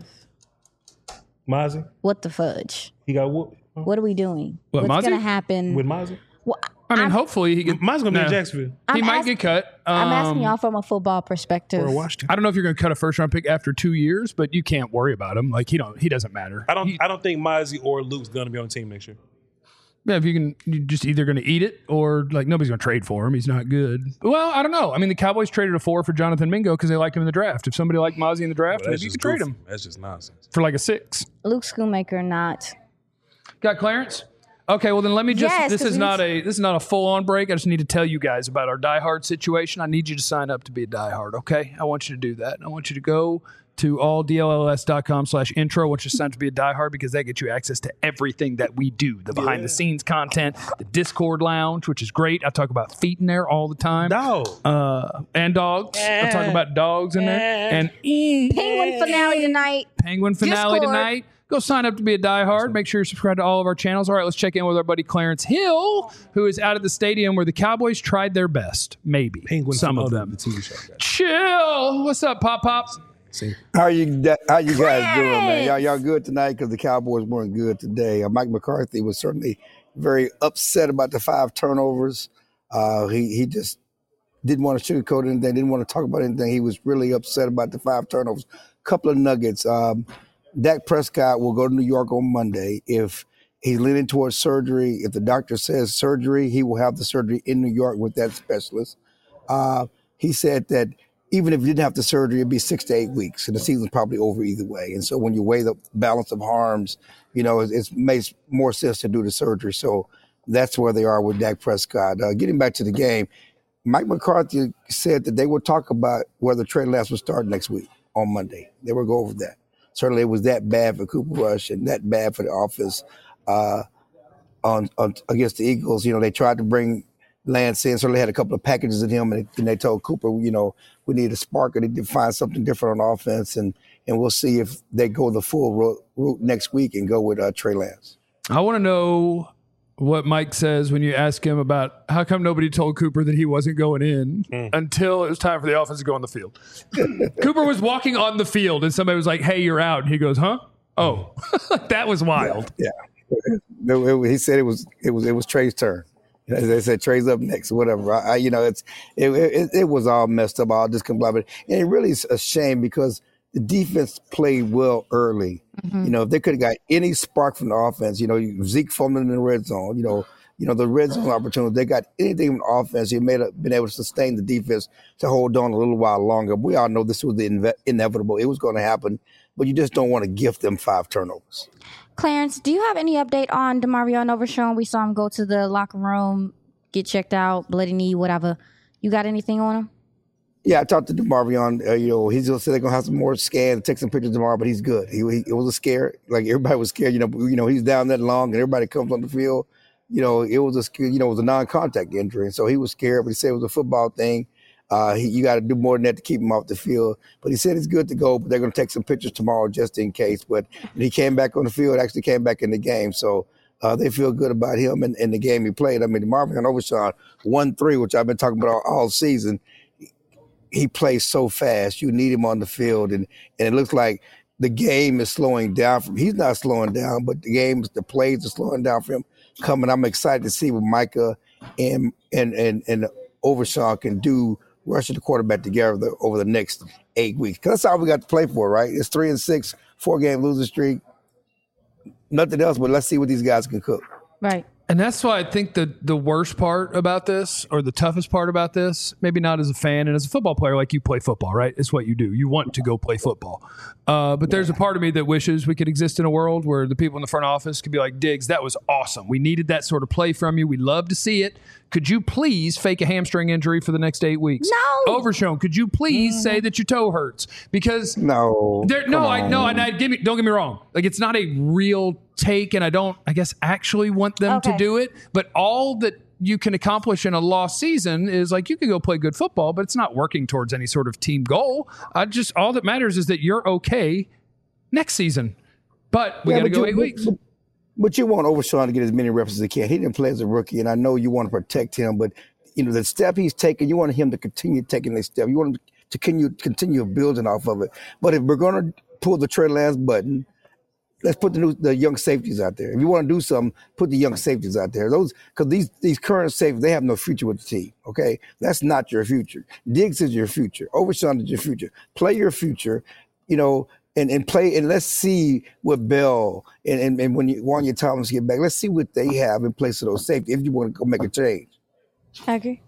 Mozzie, what the fudge? he got whooped. What are we doing? What, What's Mozzie? going to happen? With Mozzie? Well, I mean, hopefully he can. Mozzie's gonna be No. in Jacksonville. He I'm might ask- get cut. I'm asking y'all from a football perspective. Or Washington. I don't know if you're going to cut a first round pick after 2 years, but you can't worry about him. Like he doesn't matter. I don't think Mozzie or Luke's gonna be on the team next year. Yeah, if you're just either going to eat it or like nobody's going to trade for him. He's not good. Well, I don't know. I mean, the Cowboys traded a 4 for Jonathan Mingo because they liked him in the draft. If somebody liked Mozzie in the draft, Well, maybe you could trade him That's just nonsense. for like a 6. Luke Schoonmaker not Got Clarence? Okay, well then let me just. Yes, this 'cause is we not a full on break. I just need to tell you guys about our Die Hard situation. I need you to sign up to be a Die Hard. Okay, I want you to do that. I want you to go to alldlls.com/intro. I want you to sign up to be a Die Hard because that gets you access to everything that we do. The behind the scenes content, the Discord lounge, which is great. I talk about feet in there all the time. Dog. And dogs. I talk about dogs in there. And Penguin finale tonight. Penguin finale Discord. tonight. Go sign up to be a Die Hard. Make sure you're subscribed to all of our channels. All right, let's check in with our buddy Clarence Hill, who is out at the stadium where the Cowboys tried their best. Maybe. Penguin some of finale, them. the TV show. Chill. What's up, Pop Pop? See? How you guys doing, man? Y'all good tonight because the Cowboys weren't good today. Mike McCarthy was certainly very upset about the 5 turnovers. He just didn't want to sugarcoat anything, didn't want to talk about anything. He was really upset about the 5 turnovers. Couple of nuggets. Dak Prescott will go to New York on Monday. If he's leaning towards surgery, if the doctor says surgery, he will have the surgery in New York with that specialist. He said that even if you didn't have the surgery, it'd be 6 to 8 weeks, and the season's probably over either way. And so when you weigh the balance of harms, it makes more sense to do the surgery. So that's where they are with Dak Prescott. Getting back to the game, Mike McCarthy said that they would talk about whether Trey Lance would start next week on Monday. They would go over that. Certainly it was that bad for Cooper Rush and that bad for the offense on against the Eagles. They tried to bring Lance in, certainly had a couple of packages in him, and they told Cooper, we need a spark, or they need to find something different on offense, and we'll see if they go the full route next week and go with Trey Lance. I want to know what Mike says when you ask him about how come nobody told Cooper that he wasn't going in until it was time for the offense to go on the field. Cooper was walking on the field and somebody was like, hey, you're out. And he goes, huh? Oh, that was wild. Yeah. He said it was Trey's turn. They said Trey's up next, whatever. It was all messed up, all discombobulated. And it really is a shame because the defense played well early. If they could have got any spark from the offense, Zeke fumbling in the red zone, the red zone opportunity, they got anything from the offense, he may have been able to sustain the defense to hold on a little while longer. We all know this was the inevitable. It was going to happen, but you just don't want to gift them 5 turnovers. Clarence, do you have any update on DeMarvion Overshown? We saw him go to the locker room, get checked out, bloody knee, whatever. You got anything on him? Yeah, I talked to DeMarvion. He's going to say they're going to have some more scans, take some pictures tomorrow, but he's good. It was a scare. Like, everybody was scared. He's down that long, and everybody comes on the field. It was a non-contact injury, and so he was scared, but he said it was a football thing. You got to do more than that to keep him off the field. But he said it's good to go, but they're going to take some pictures tomorrow just in case. But he came back on the field, actually came back in the game. So they feel good about him and the game he played. I mean, DeMarvion Overshown 1-3, which I've been talking about all season. He plays so fast. You need him on the field. And it looks like the game is slowing down for him. He's not slowing down, but the plays are slowing down for him coming. I'm excited to see what Micah and Overshown can do rushing the quarterback together over the next 8 weeks. Because that's all we got to play for, right? It's 3-6, 4-game losing streak. Nothing else, but let's see what these guys can cook. Right. And that's why I think the worst part about this, or the toughest part about this, maybe not as a fan and as a football player, like you play football, right? It's what you do. You want to go play football. But there's a part of me that wishes we could exist in a world where the people in the front office could be like, Diggs, that was awesome. We needed that sort of play from you. We love to see it. Could you please fake a hamstring injury for the next 8 weeks? No. Overshown, could you please say that your toe hurts? Because don't get me wrong. Like, it's not a real take, and I don't, I guess, actually want them to do it. But all that you can accomplish in a lost season is, like, you can go play good football, but it's not working towards any sort of team goal. All that matters is that you're okay next season. But we got to go 8 weeks. But you want Overshown to get as many reps as he can. He didn't play as a rookie, and I know you want to protect him, but the step he's taking, you want him to continue taking the step. You want him to continue building off of it. But if we're going to pull the Trey Lance button, let's put the young safeties out there. If you want to do something, put the young safeties out there. Because these current safeties, they have no future with the team. Okay, that's not your future. Diggs is your future. Overshown is your future. Play your future. And play, and let's see what Bell and when Wanya Thomas get back, let's see what they have in place of those safeties if you want to go make a change. I agree.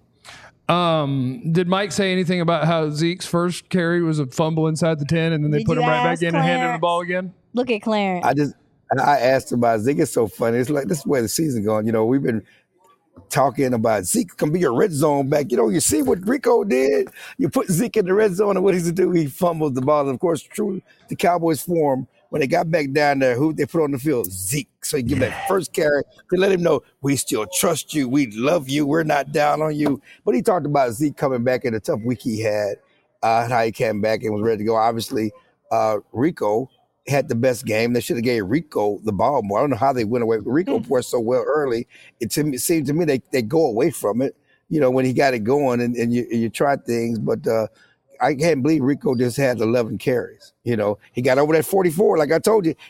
Did Mike say anything about how Zeke's first carry was a fumble inside the 10 and then they put him right back in and handed him the ball again? Look at Clarence. And I asked him about Zeke. It's so funny. It's like, this is where the season going. You know, we've been talking about Zeke can be your red zone back. You know, you see what Rico did? You put Zeke in the red zone, and what does he do? He fumbles the ball. And of course, true to Cowboys form, when they got back down there, who they put on the field? Zeke. So you give that first carry to let him know, we still trust you. We love you. We're not down on you. But he talked about Zeke coming back in a tough week he had, how he came back and was ready to go. Obviously, Rico had the best game. They should have gave Rico the ball more. I don't know how they went away. Rico played so well early. It seemed to me they go away from it, you know, when he got it going and you try things. But I can't believe Rico just had 11 carries. You know, he got over that 44. Like I told you,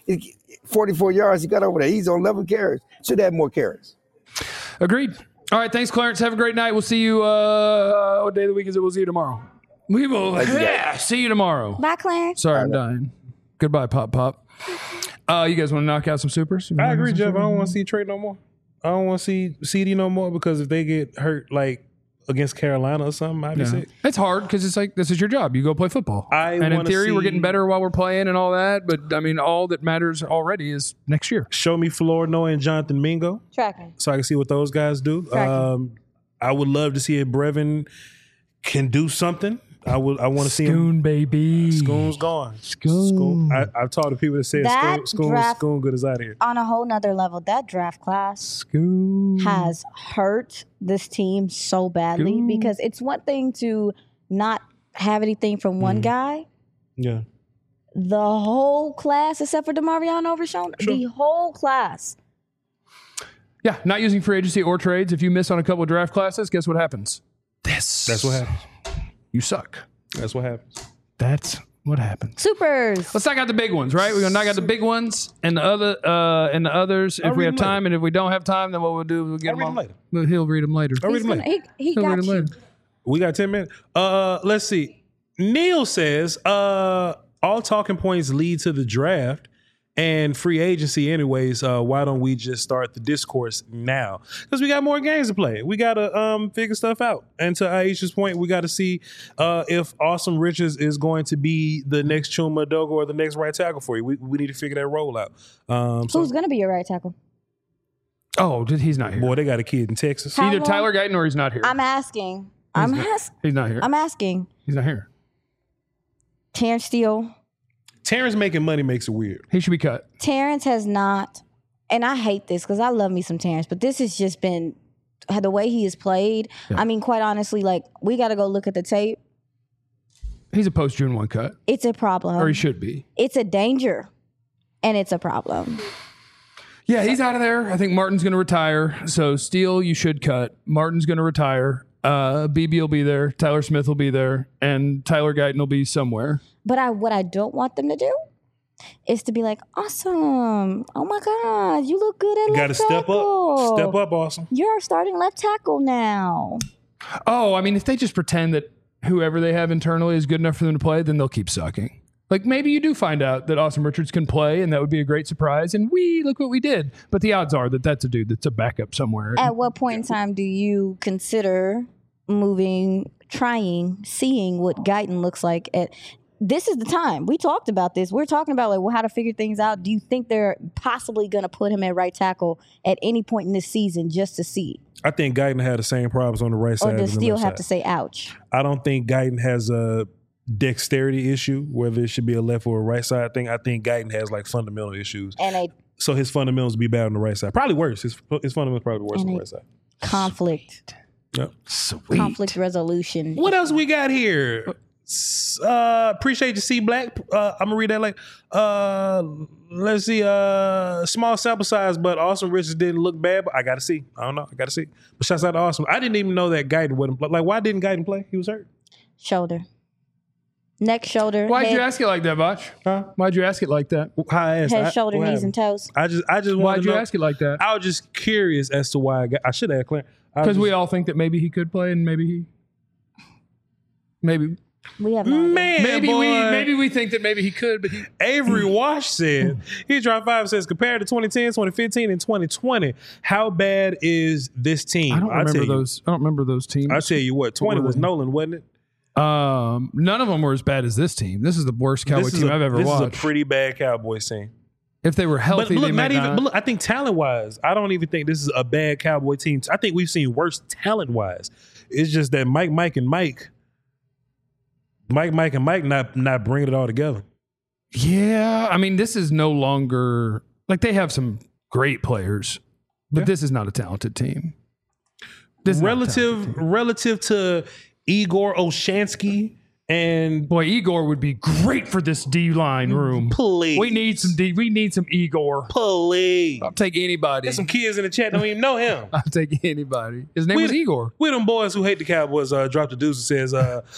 44 yards, he got over there. He's on 11 carries. Should have more carries. Agreed. All right. Thanks, Clarence. Have a great night. We'll see you. What day of the week is it? We'll see you tomorrow. We will. See you tomorrow. Bye, Clarence. Sorry, I'm dying. Goodbye, Pop. You guys want to knock out some supers? I agree, Jeff. I don't want to see Trey no more. I don't want to see CD no more because if they get hurt, like against Carolina or something, I'd be sick. It's hard because it's like, this is your job. You go play football. And in theory, we're getting better while we're playing and all that. But, I mean, all that matters already is next year. Show me Florida and Jonathan Mingo. Tracking. So I can see what those guys do. I would love to see if Brevin can do something. I want to see him. Scoon, baby. Scoon's gone. Scoon. I've talked to people that said Scoon good is out of here. On a whole nother level, that draft class Scoon has hurt this team so badly Scoon. Because it's one thing to not have anything from one guy. Yeah. The whole class, except for DeMarvion Overshown, the whole class. Yeah, not using free agency or trades. If you miss on a couple of draft classes, guess what happens? That's what happens. You suck. That's what happens. That's what happens. Supers. Let's knock out the big ones, right? We're gonna knock out the big ones and the others if we have time. And if we don't have time, then what we'll do is we'll get them later. He'll read them later. I'll read them later. He He'll got read them you. later. We got 10 minutes. Let's see. Neil says, all talking points lead to the draft and free agency anyways. Why don't we just start the discourse now? Because we got more games to play. We got to figure stuff out. And to Aisha's point, we got to see if Awesome Richards is going to be the next Chuma Dogo or the next right tackle for you. We need to figure that role out. Who's going to be your right tackle? Oh, he's not here. Boy, they got a kid in Texas. How Either long? Tyler Guyton or he's not here. I'm asking. He's not here. I'm asking. He's not here. Terrence Steele. Terrence making money makes it weird. He should be cut. Terrence has not, and I hate this because I love me some Terrence, but this has just been the way he has played. Yeah. I mean, quite honestly, like, we got to go look at the tape. He's a post June 1 cut. It's a problem. Or he should be. It's a danger, and it's a problem. Yeah, he's out of there. I think Martin's going to retire. So Steele, you should cut. Martin's going to retire. BB will be there. Tyler Smith will be there. And Tyler Guyton will be somewhere. But what I don't want them to do is to be like, awesome. Oh, my God. You look good at left tackle. Got to step up, Awesome. You're our starting left tackle now. Oh, I mean, if they just pretend that whoever they have internally is good enough for them to play, then they'll keep sucking. Like, maybe you do find out that Awesome Richards can play, and that would be a great surprise. And look what we did. But the odds are that that's a dude that's a backup somewhere. At what point in time do you consider seeing what Guyton looks like? This is the time. We talked about this. We're talking about how to figure things out. Do you think they're possibly going to put him at right tackle at any point in this season just to see? I think Guyton had the same problems on the right side. Or does Steele have to say, ouch? I don't think Guyton has a dexterity issue, whether it should be a left or a right side thing. I think Guyton has like fundamental issues. So his fundamentals be bad on the right side. Probably worse. His fundamentals probably worse on the right side. Conflict. Yep. Sweet. Conflict resolution. What else we got here? Appreciate you, C Black. I'm gonna read that later. Let's see. Small sample size, but Awesome Richards didn't look bad. But I gotta see. I don't know. I gotta see. But shouts out to Awesome. I didn't even know that Guyton wouldn't play. Like, why didn't Guyton play? He was hurt. Shoulder. Neck, shoulder. Why'd head, you ask it like that, Botch? Huh? Why'd you ask it like that? Head, shoulder, knees, and toes. I just Why'd you ask it like that? I was just curious as to why I should have Clarence. Because we all think that maybe he could play, and maybe. We have no idea. Maybe we think that maybe he could, but Avery Wash said, he dropped 5, says, compared to 2010, 2015, and 2020, how bad is this team? I don't remember those teams. I'll tell you what, 20 was Nolan, wasn't it? None of them were as bad as this team. This is the worst Cowboy team I've ever watched. This is a pretty bad Cowboys team. If they were healthy, But look, they might not. But look, I think talent-wise, I don't even think this is a bad Cowboy team. I think we've seen worse talent-wise. It's just that Mike and Mike not bringing it all together. Yeah, I mean, this is no longer like they have some great players, but this is not a talented team. This is not a talented team. Relative to Igor Olshansky and Boy, Igor would be great for this D line room. Please. We need some Igor. Please. I'll take anybody. There's some kids in the chat don't even know him. I'll take anybody. His name was Igor. We them boys who hate the Cowboys dropped the deuce and says,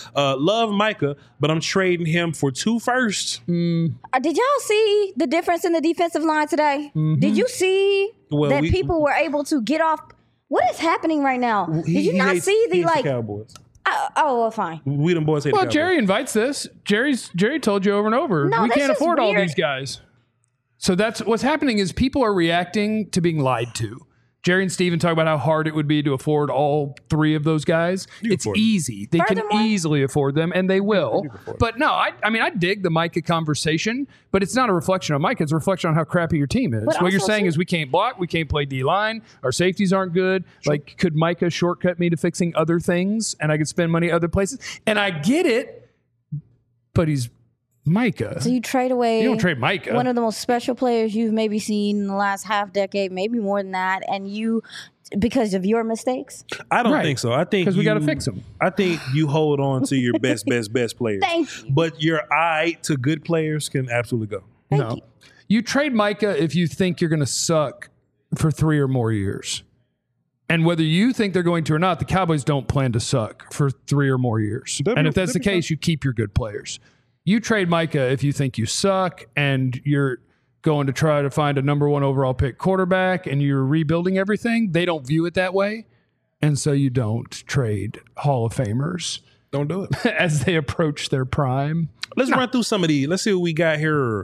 love Micah, but I'm trading him for 2 firsts. Did y'all see the difference in the defensive line today? Did you see that people were able to get off? What is happening right now? Did you not see the Cowboys? Well, fine. We them boys hate the Cowboys. Jerry invites this. Jerry told you over and over. No, we that's can't just afford all weird. these guys. So that's what's happening is people are reacting to being lied to. Jerry and Steven talk about how hard it would be to afford all 3 of those guys. It's easy. They can easily afford them, and they will. But no, I mean, I dig the Micah conversation, but it's not a reflection on Micah. It's a reflection on how crappy your team is. What you're saying is we can't block, we can't play D-line, our safeties aren't good. Sure. Like, could Micah shortcut me to fixing other things, and I could spend money other places? And I get it, but he's Micah. So you trade away. You don't trade Micah. One of the most special players you've maybe seen in the last half decade, maybe more than that, and you, because of your mistakes. I don't think so. I think because we got to fix them. I think you hold on to your best players. Thank you. But your eye to good players can absolutely go. Thank you. You trade Micah if you think you're going to suck for 3 or more years. And whether you think they're going to or not, the Cowboys don't plan to suck for 3 or more years. And if that's the case, you keep your good players. You trade Micah if you think you suck and you're going to try to find a number 1 overall pick quarterback and you're rebuilding everything. They don't view it that way. And so you don't trade Hall of Famers. Don't do it. As they approach their prime. Let's run through some of these. Let's see what we got here.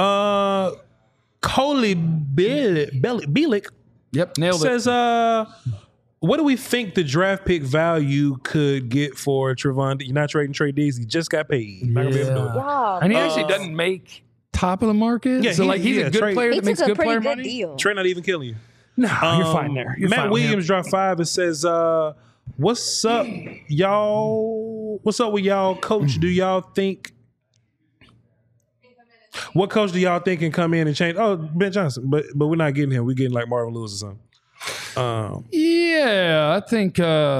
Coley Bielik. Yep, nailed it. Says, what do we think the draft pick value could get for Trevon? You're not trading Trey Diggs. He just got paid. Not gonna be able to do it. Wow. And he actually doesn't make top of the market. Yeah, so he's a good player that makes good player good money. deal. Trey not even killing you. No, you're fine there. Matt Williams dropped 5 and says, what's up, y'all? What's up with y'all, coach? Do y'all think what coach do y'all think can come in and change? Oh, Ben Johnson, but we're not getting him. We're getting like Marvin Lewis or something. Yeah, I think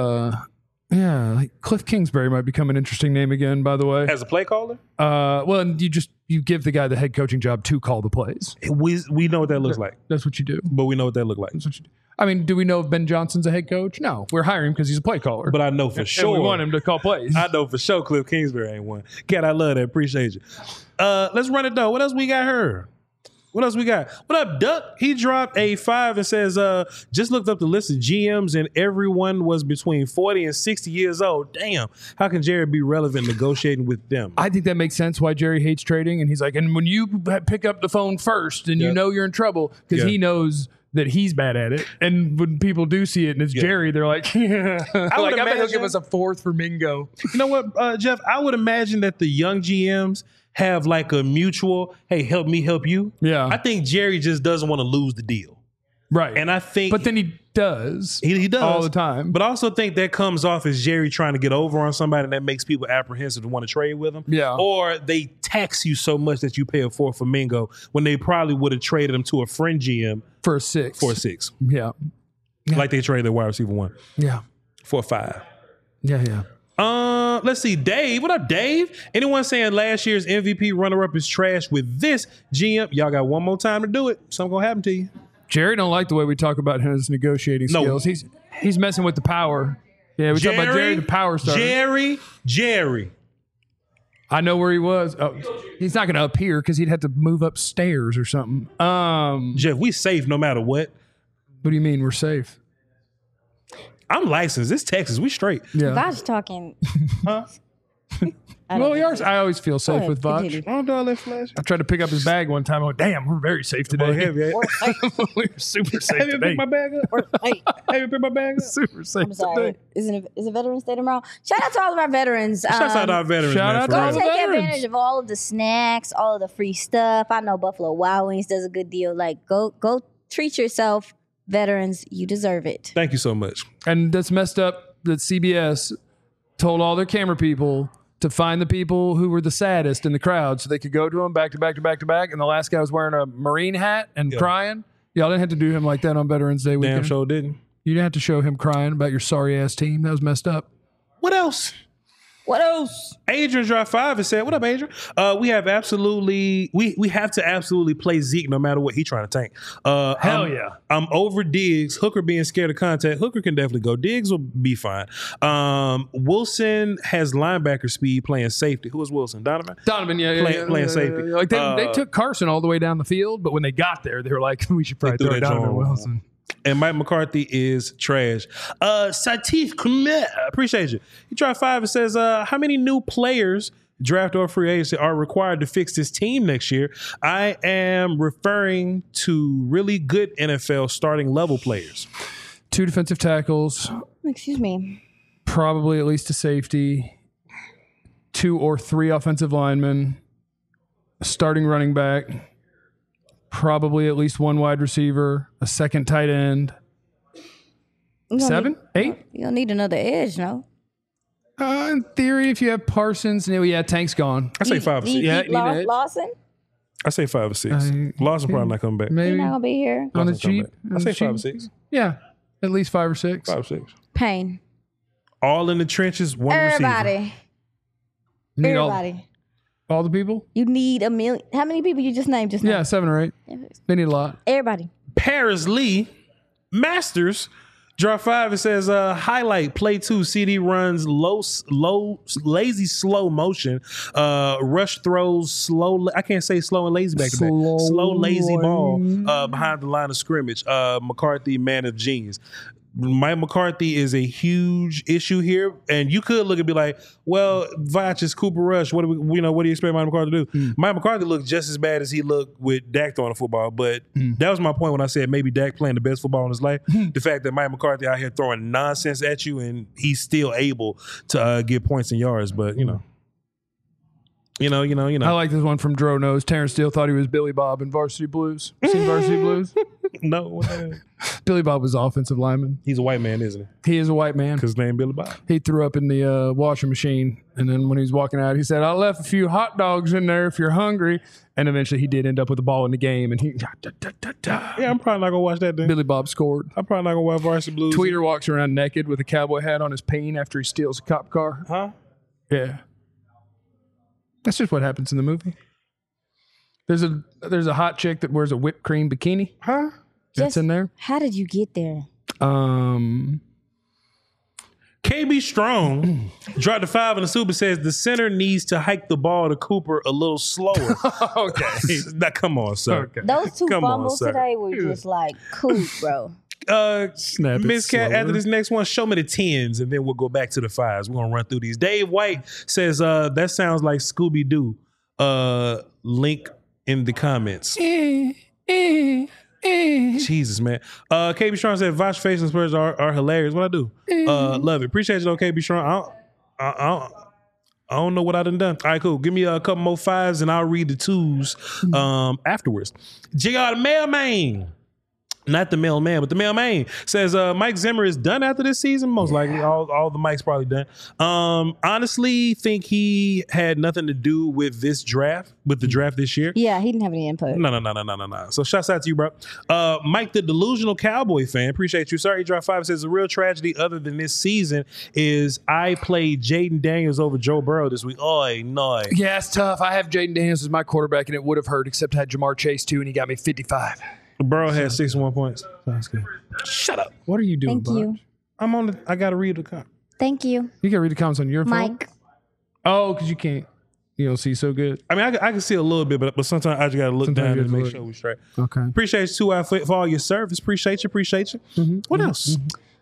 like Cliff Kingsbury might become an interesting name again, by the way. As a play caller? Well, and you give the guy the head coaching job to call the plays. We know what that looks like. That's what you do. But we know what that looks like. That's what you do. I mean, do we know if Ben Johnson's a head coach? No. We're hiring him because he's a play caller. But I know for sure. And we want him to call plays. I know for sure Cliff Kingsbury ain't one. God, I love that. Appreciate you. Let's run it though. What else we got here? What else we got? What up, Duck? He dropped a 5 and says, just looked up the list of GMs and everyone was between 40 and 60 years old. Damn. How can Jerry be relevant negotiating with them? I think that makes sense why Jerry hates trading. And he's like, and when you pick up the phone first and you know you're in trouble because he knows that he's bad at it. And when people do see it and it's Jerry, they're like, I bet he'll give us a 4th for Mingo. You know what, Jeff? I would imagine that the young GMs have like a mutual, hey, help me help you. Yeah. I think Jerry just doesn't want to lose the deal. Right. And I think... But then he does. He does. All the time. But I also think that comes off as Jerry trying to get over on somebody and that makes people apprehensive to want to trade with him. Yeah. Or they tax you so much that you pay a 4th for Mingo when they probably would have traded him to a friend GM. For a 6. For a 6. Yeah. Like they traded wide receiver 1. Yeah. For a 5. Yeah. Let's see, Dave. What up, Dave? Anyone saying last year's MVP runner-up is trash with this GM? Y'all got one more time to do it. Something gonna happen to you. Jerry don't like the way we talk about his negotiating skills. He's messing with the power. Yeah, we talk about Jerry, the power star. Jerry. I know where he was. Oh, he's not gonna appear because he'd have to move upstairs or something. Jeff, we safe no matter what. What do you mean we're safe? I'm licensed. It's Texas. We straight. Yeah. God's talking. Huh? I always feel safe with Voch. continue. I don't do all that flash. I tried to pick up his bag one time. I went, damn, we're very safe today. Heavy. We're super safe Have you today. picked my bag up? Hey, Have you picked my bag up? Super safe I'm sorry. today. Is it Veterans Day tomorrow? Shout out to all of our veterans. Shouts out to our veterans, shout man. out for to Go all real. the take veterans. advantage of all of the snacks, all of the free stuff. I know Buffalo Wild Wings does a good deal. Like, go treat yourself, veterans. You deserve it. Thank you so much. And that's messed up that CBS told all their camera people to find the people who were the saddest in the crowd so they could go to them back to back to back to back. And the last guy was wearing a Marine hat and crying. Y'all didn't have to do him like that on Veterans Day weekend. Damn sure didn't. You didn't have to show him crying about your sorry ass team. That was messed up. What else? What else? Adrian Drive 5 has said, what up, Adrian? We have to absolutely play Zeke no matter what he's trying to tank. Hell yeah. I'm over Diggs. Hooker being scared of contact. Hooker can definitely go. Diggs will be fine. Wilson has linebacker speed playing safety. Who is Wilson? Donovan? Donovan, Playing safety. Like they took Carson all the way down the field, but when they got there, they were like, we should probably threw throw that Donovan John Wilson. And Mike McCarthy is trash. Satif Khmer, appreciate you. He tried 5 and says, how many new players, draft or free agency, are required to fix this team next year? I am referring to really good NFL starting level players. 2 defensive tackles, Excuse me. probably at least a safety, 2 or 3 offensive linemen, a starting running back, probably at least 1 wide receiver, a second tight end. You don't 7, 8? You don't need another edge, no? In theory, if you have Parsons, Tank's gone. I say 5 or 6. Yeah, you need an edge. Lawson? I say 5 or 6. Lawson probably not coming back. He's Maybe not going to be here. on the Lawson come cheap. back. I say 5 or 6. Yeah, at least 5 or 6. 5 or 6. Payne. All in the trenches, one receiver. Everybody. You need Everybody. all the people? You need a million. How many people you just named just now? Yeah, 7 or 8. They need a lot. Everybody. Paris Lee Masters. Draw 5, it says, highlight, play 2, CD runs, lazy, slow motion, rush throws, slow, I can't say slow and lazy back to back, slow, lazy ball behind the line of scrimmage. McCarthy, man of genius. Mike McCarthy is a huge issue here, and you could look and be like, "Well, Voch is Cooper Rush. What do you expect Mike McCarthy to do?" Mike McCarthy looked just as bad as he looked with Dak throwing the football, but that was my point when I said maybe Dak playing the best football in his life. The fact that Mike McCarthy out here throwing nonsense at you, and he's still able to get points and yards, but you know. I like this one from Dro Knows. Terrence Steele thought he was Billy Bob in Varsity Blues. Seen Varsity Blues? No, Billy Bob was the offensive lineman. he's a white man, isn't he? He is a white man. Because his name Billy Bob. He threw up in the washing machine, and then when he was walking out, he said, "I left a few hot dogs in there if you're hungry." And eventually, he did end up with the ball in the game, and he Yeah, I'm probably not gonna watch that then. Billy Bob scored. I'm probably not gonna watch Varsity Blues. Tweeter walks around naked with a cowboy hat on his peen after he steals a cop car. Huh? Yeah, that's just what happens in the movie. There's a hot chick that wears a whipped cream bikini. Huh? That's in there. How did you get there? KB Strong dropped the 5 in the super, says the center needs to hike the ball to Cooper a little slower. Okay. Now, come on, sir. Okay. Those 2 Come on, fumbles sir. today were just like cool, bro. Snap it Miss Cat, slower. after this next one, show me the 10s, and then we'll go back to the 5s. We're gonna run through these. Dave White says that sounds like Scooby Doo. Link in the comments. Jesus, man. KB Strong said Voch face and Spurs are hilarious. What I do? Love it. Appreciate you though, KB Strong. I don't know what I done. All right, cool. Give me a couple more 5s and I'll read the 2s afterwards. JR the Mailman. Not the mailman, but the mailman says Mike Zimmer is done after this season. Most likely, all the Mike's probably done. Honestly, think he had nothing to do with this draft, with the draft this year. Yeah, he didn't have any input. No. So shouts out to you, bro. Mike, the delusional Cowboy fan, appreciate you. Sorry, Draft 5 says the real tragedy other than this season is I played Jaden Daniels over Joe Burrow this week. Oy, no. Yeah, it's tough. I have Jaden Daniels as my quarterback, and it would have hurt, except I had Jamar Chase too, and he got me 55. Burrow had 61 points. Sounds good. Shut up. What are you doing, Thank you. Bob? I gotta read the comment. Thank you, You can read the comments on your phone. Mike. Oh, because you don't see so good. I mean, I can see a little bit, but sometimes I just gotta look Sometimes down you and have to make look. sure we're straight. Okay. Appreciate you too for all your service. Appreciate you. What else?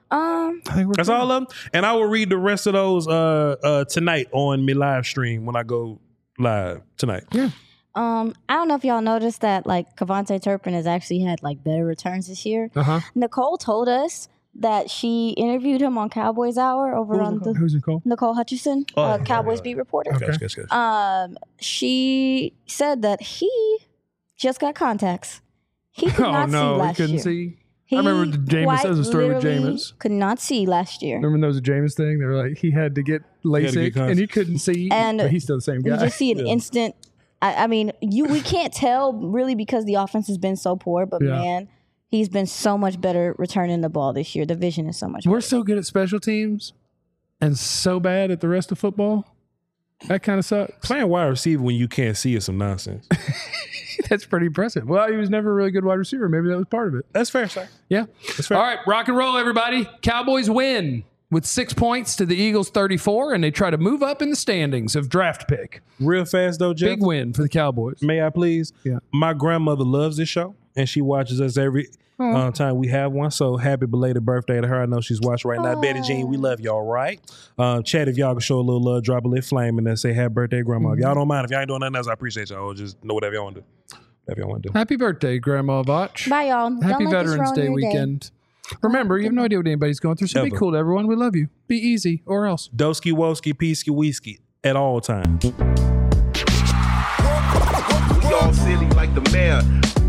I think That's all of them. And I will read the rest of those tonight on my live stream when I go live tonight. Yeah. I don't know if y'all noticed that like Kevontae Turpin has actually had like better returns this year. Nicole told us that she interviewed him on Cowboys Hour over on the Who's Nicole? Nicole Hutchison, Cowboys beat reporter. Gotcha. She said that he just got contacts. He could not see last he couldn't year. see. I remember Jameis. That was a story with Jameis. Could not see last year. Remember there was a Jameis thing? They were like, he had to get LASIK and he couldn't see. And but he's still the same guy. You just see an instant. I mean, we can't tell really because the offense has been so poor, but man, he's been so much better returning the ball this year. The vision is so much better. We're so good at special teams and so bad at the rest of football. That kind of sucks. Playing wide receiver when you can't see is some nonsense. That's pretty impressive. Well, he was never a really good wide receiver. Maybe that was part of it. That's fair, sir. Yeah. That's fair. All right, rock and roll, everybody. Cowboys win with 6 points to the Eagles 34, and they try to move up in the standings of draft pick. Real fast, though, Jeff. Big win for the Cowboys. May I please? Yeah. My grandmother loves this show, and she watches us every time we have one. So happy belated birthday to her. I know she's watching right now. Betty Jean, we love y'all, right? Chat, if y'all can show a little love, drop a little flame, and then say happy birthday, Grandma. If y'all don't mind, if y'all ain't doing nothing else, I appreciate y'all. Just know whatever y'all want to do. Whatever y'all want to do. Happy birthday, Grandma Vach. Bye, y'all. Happy Don't let this Veterans ruin Day your weekend. Remember, you have no idea what anybody's going through, so be Ever. cool to everyone. We love you. Be easy, or else. Doski, woski, peasky, whiskey at all times. We all silly like the mayor.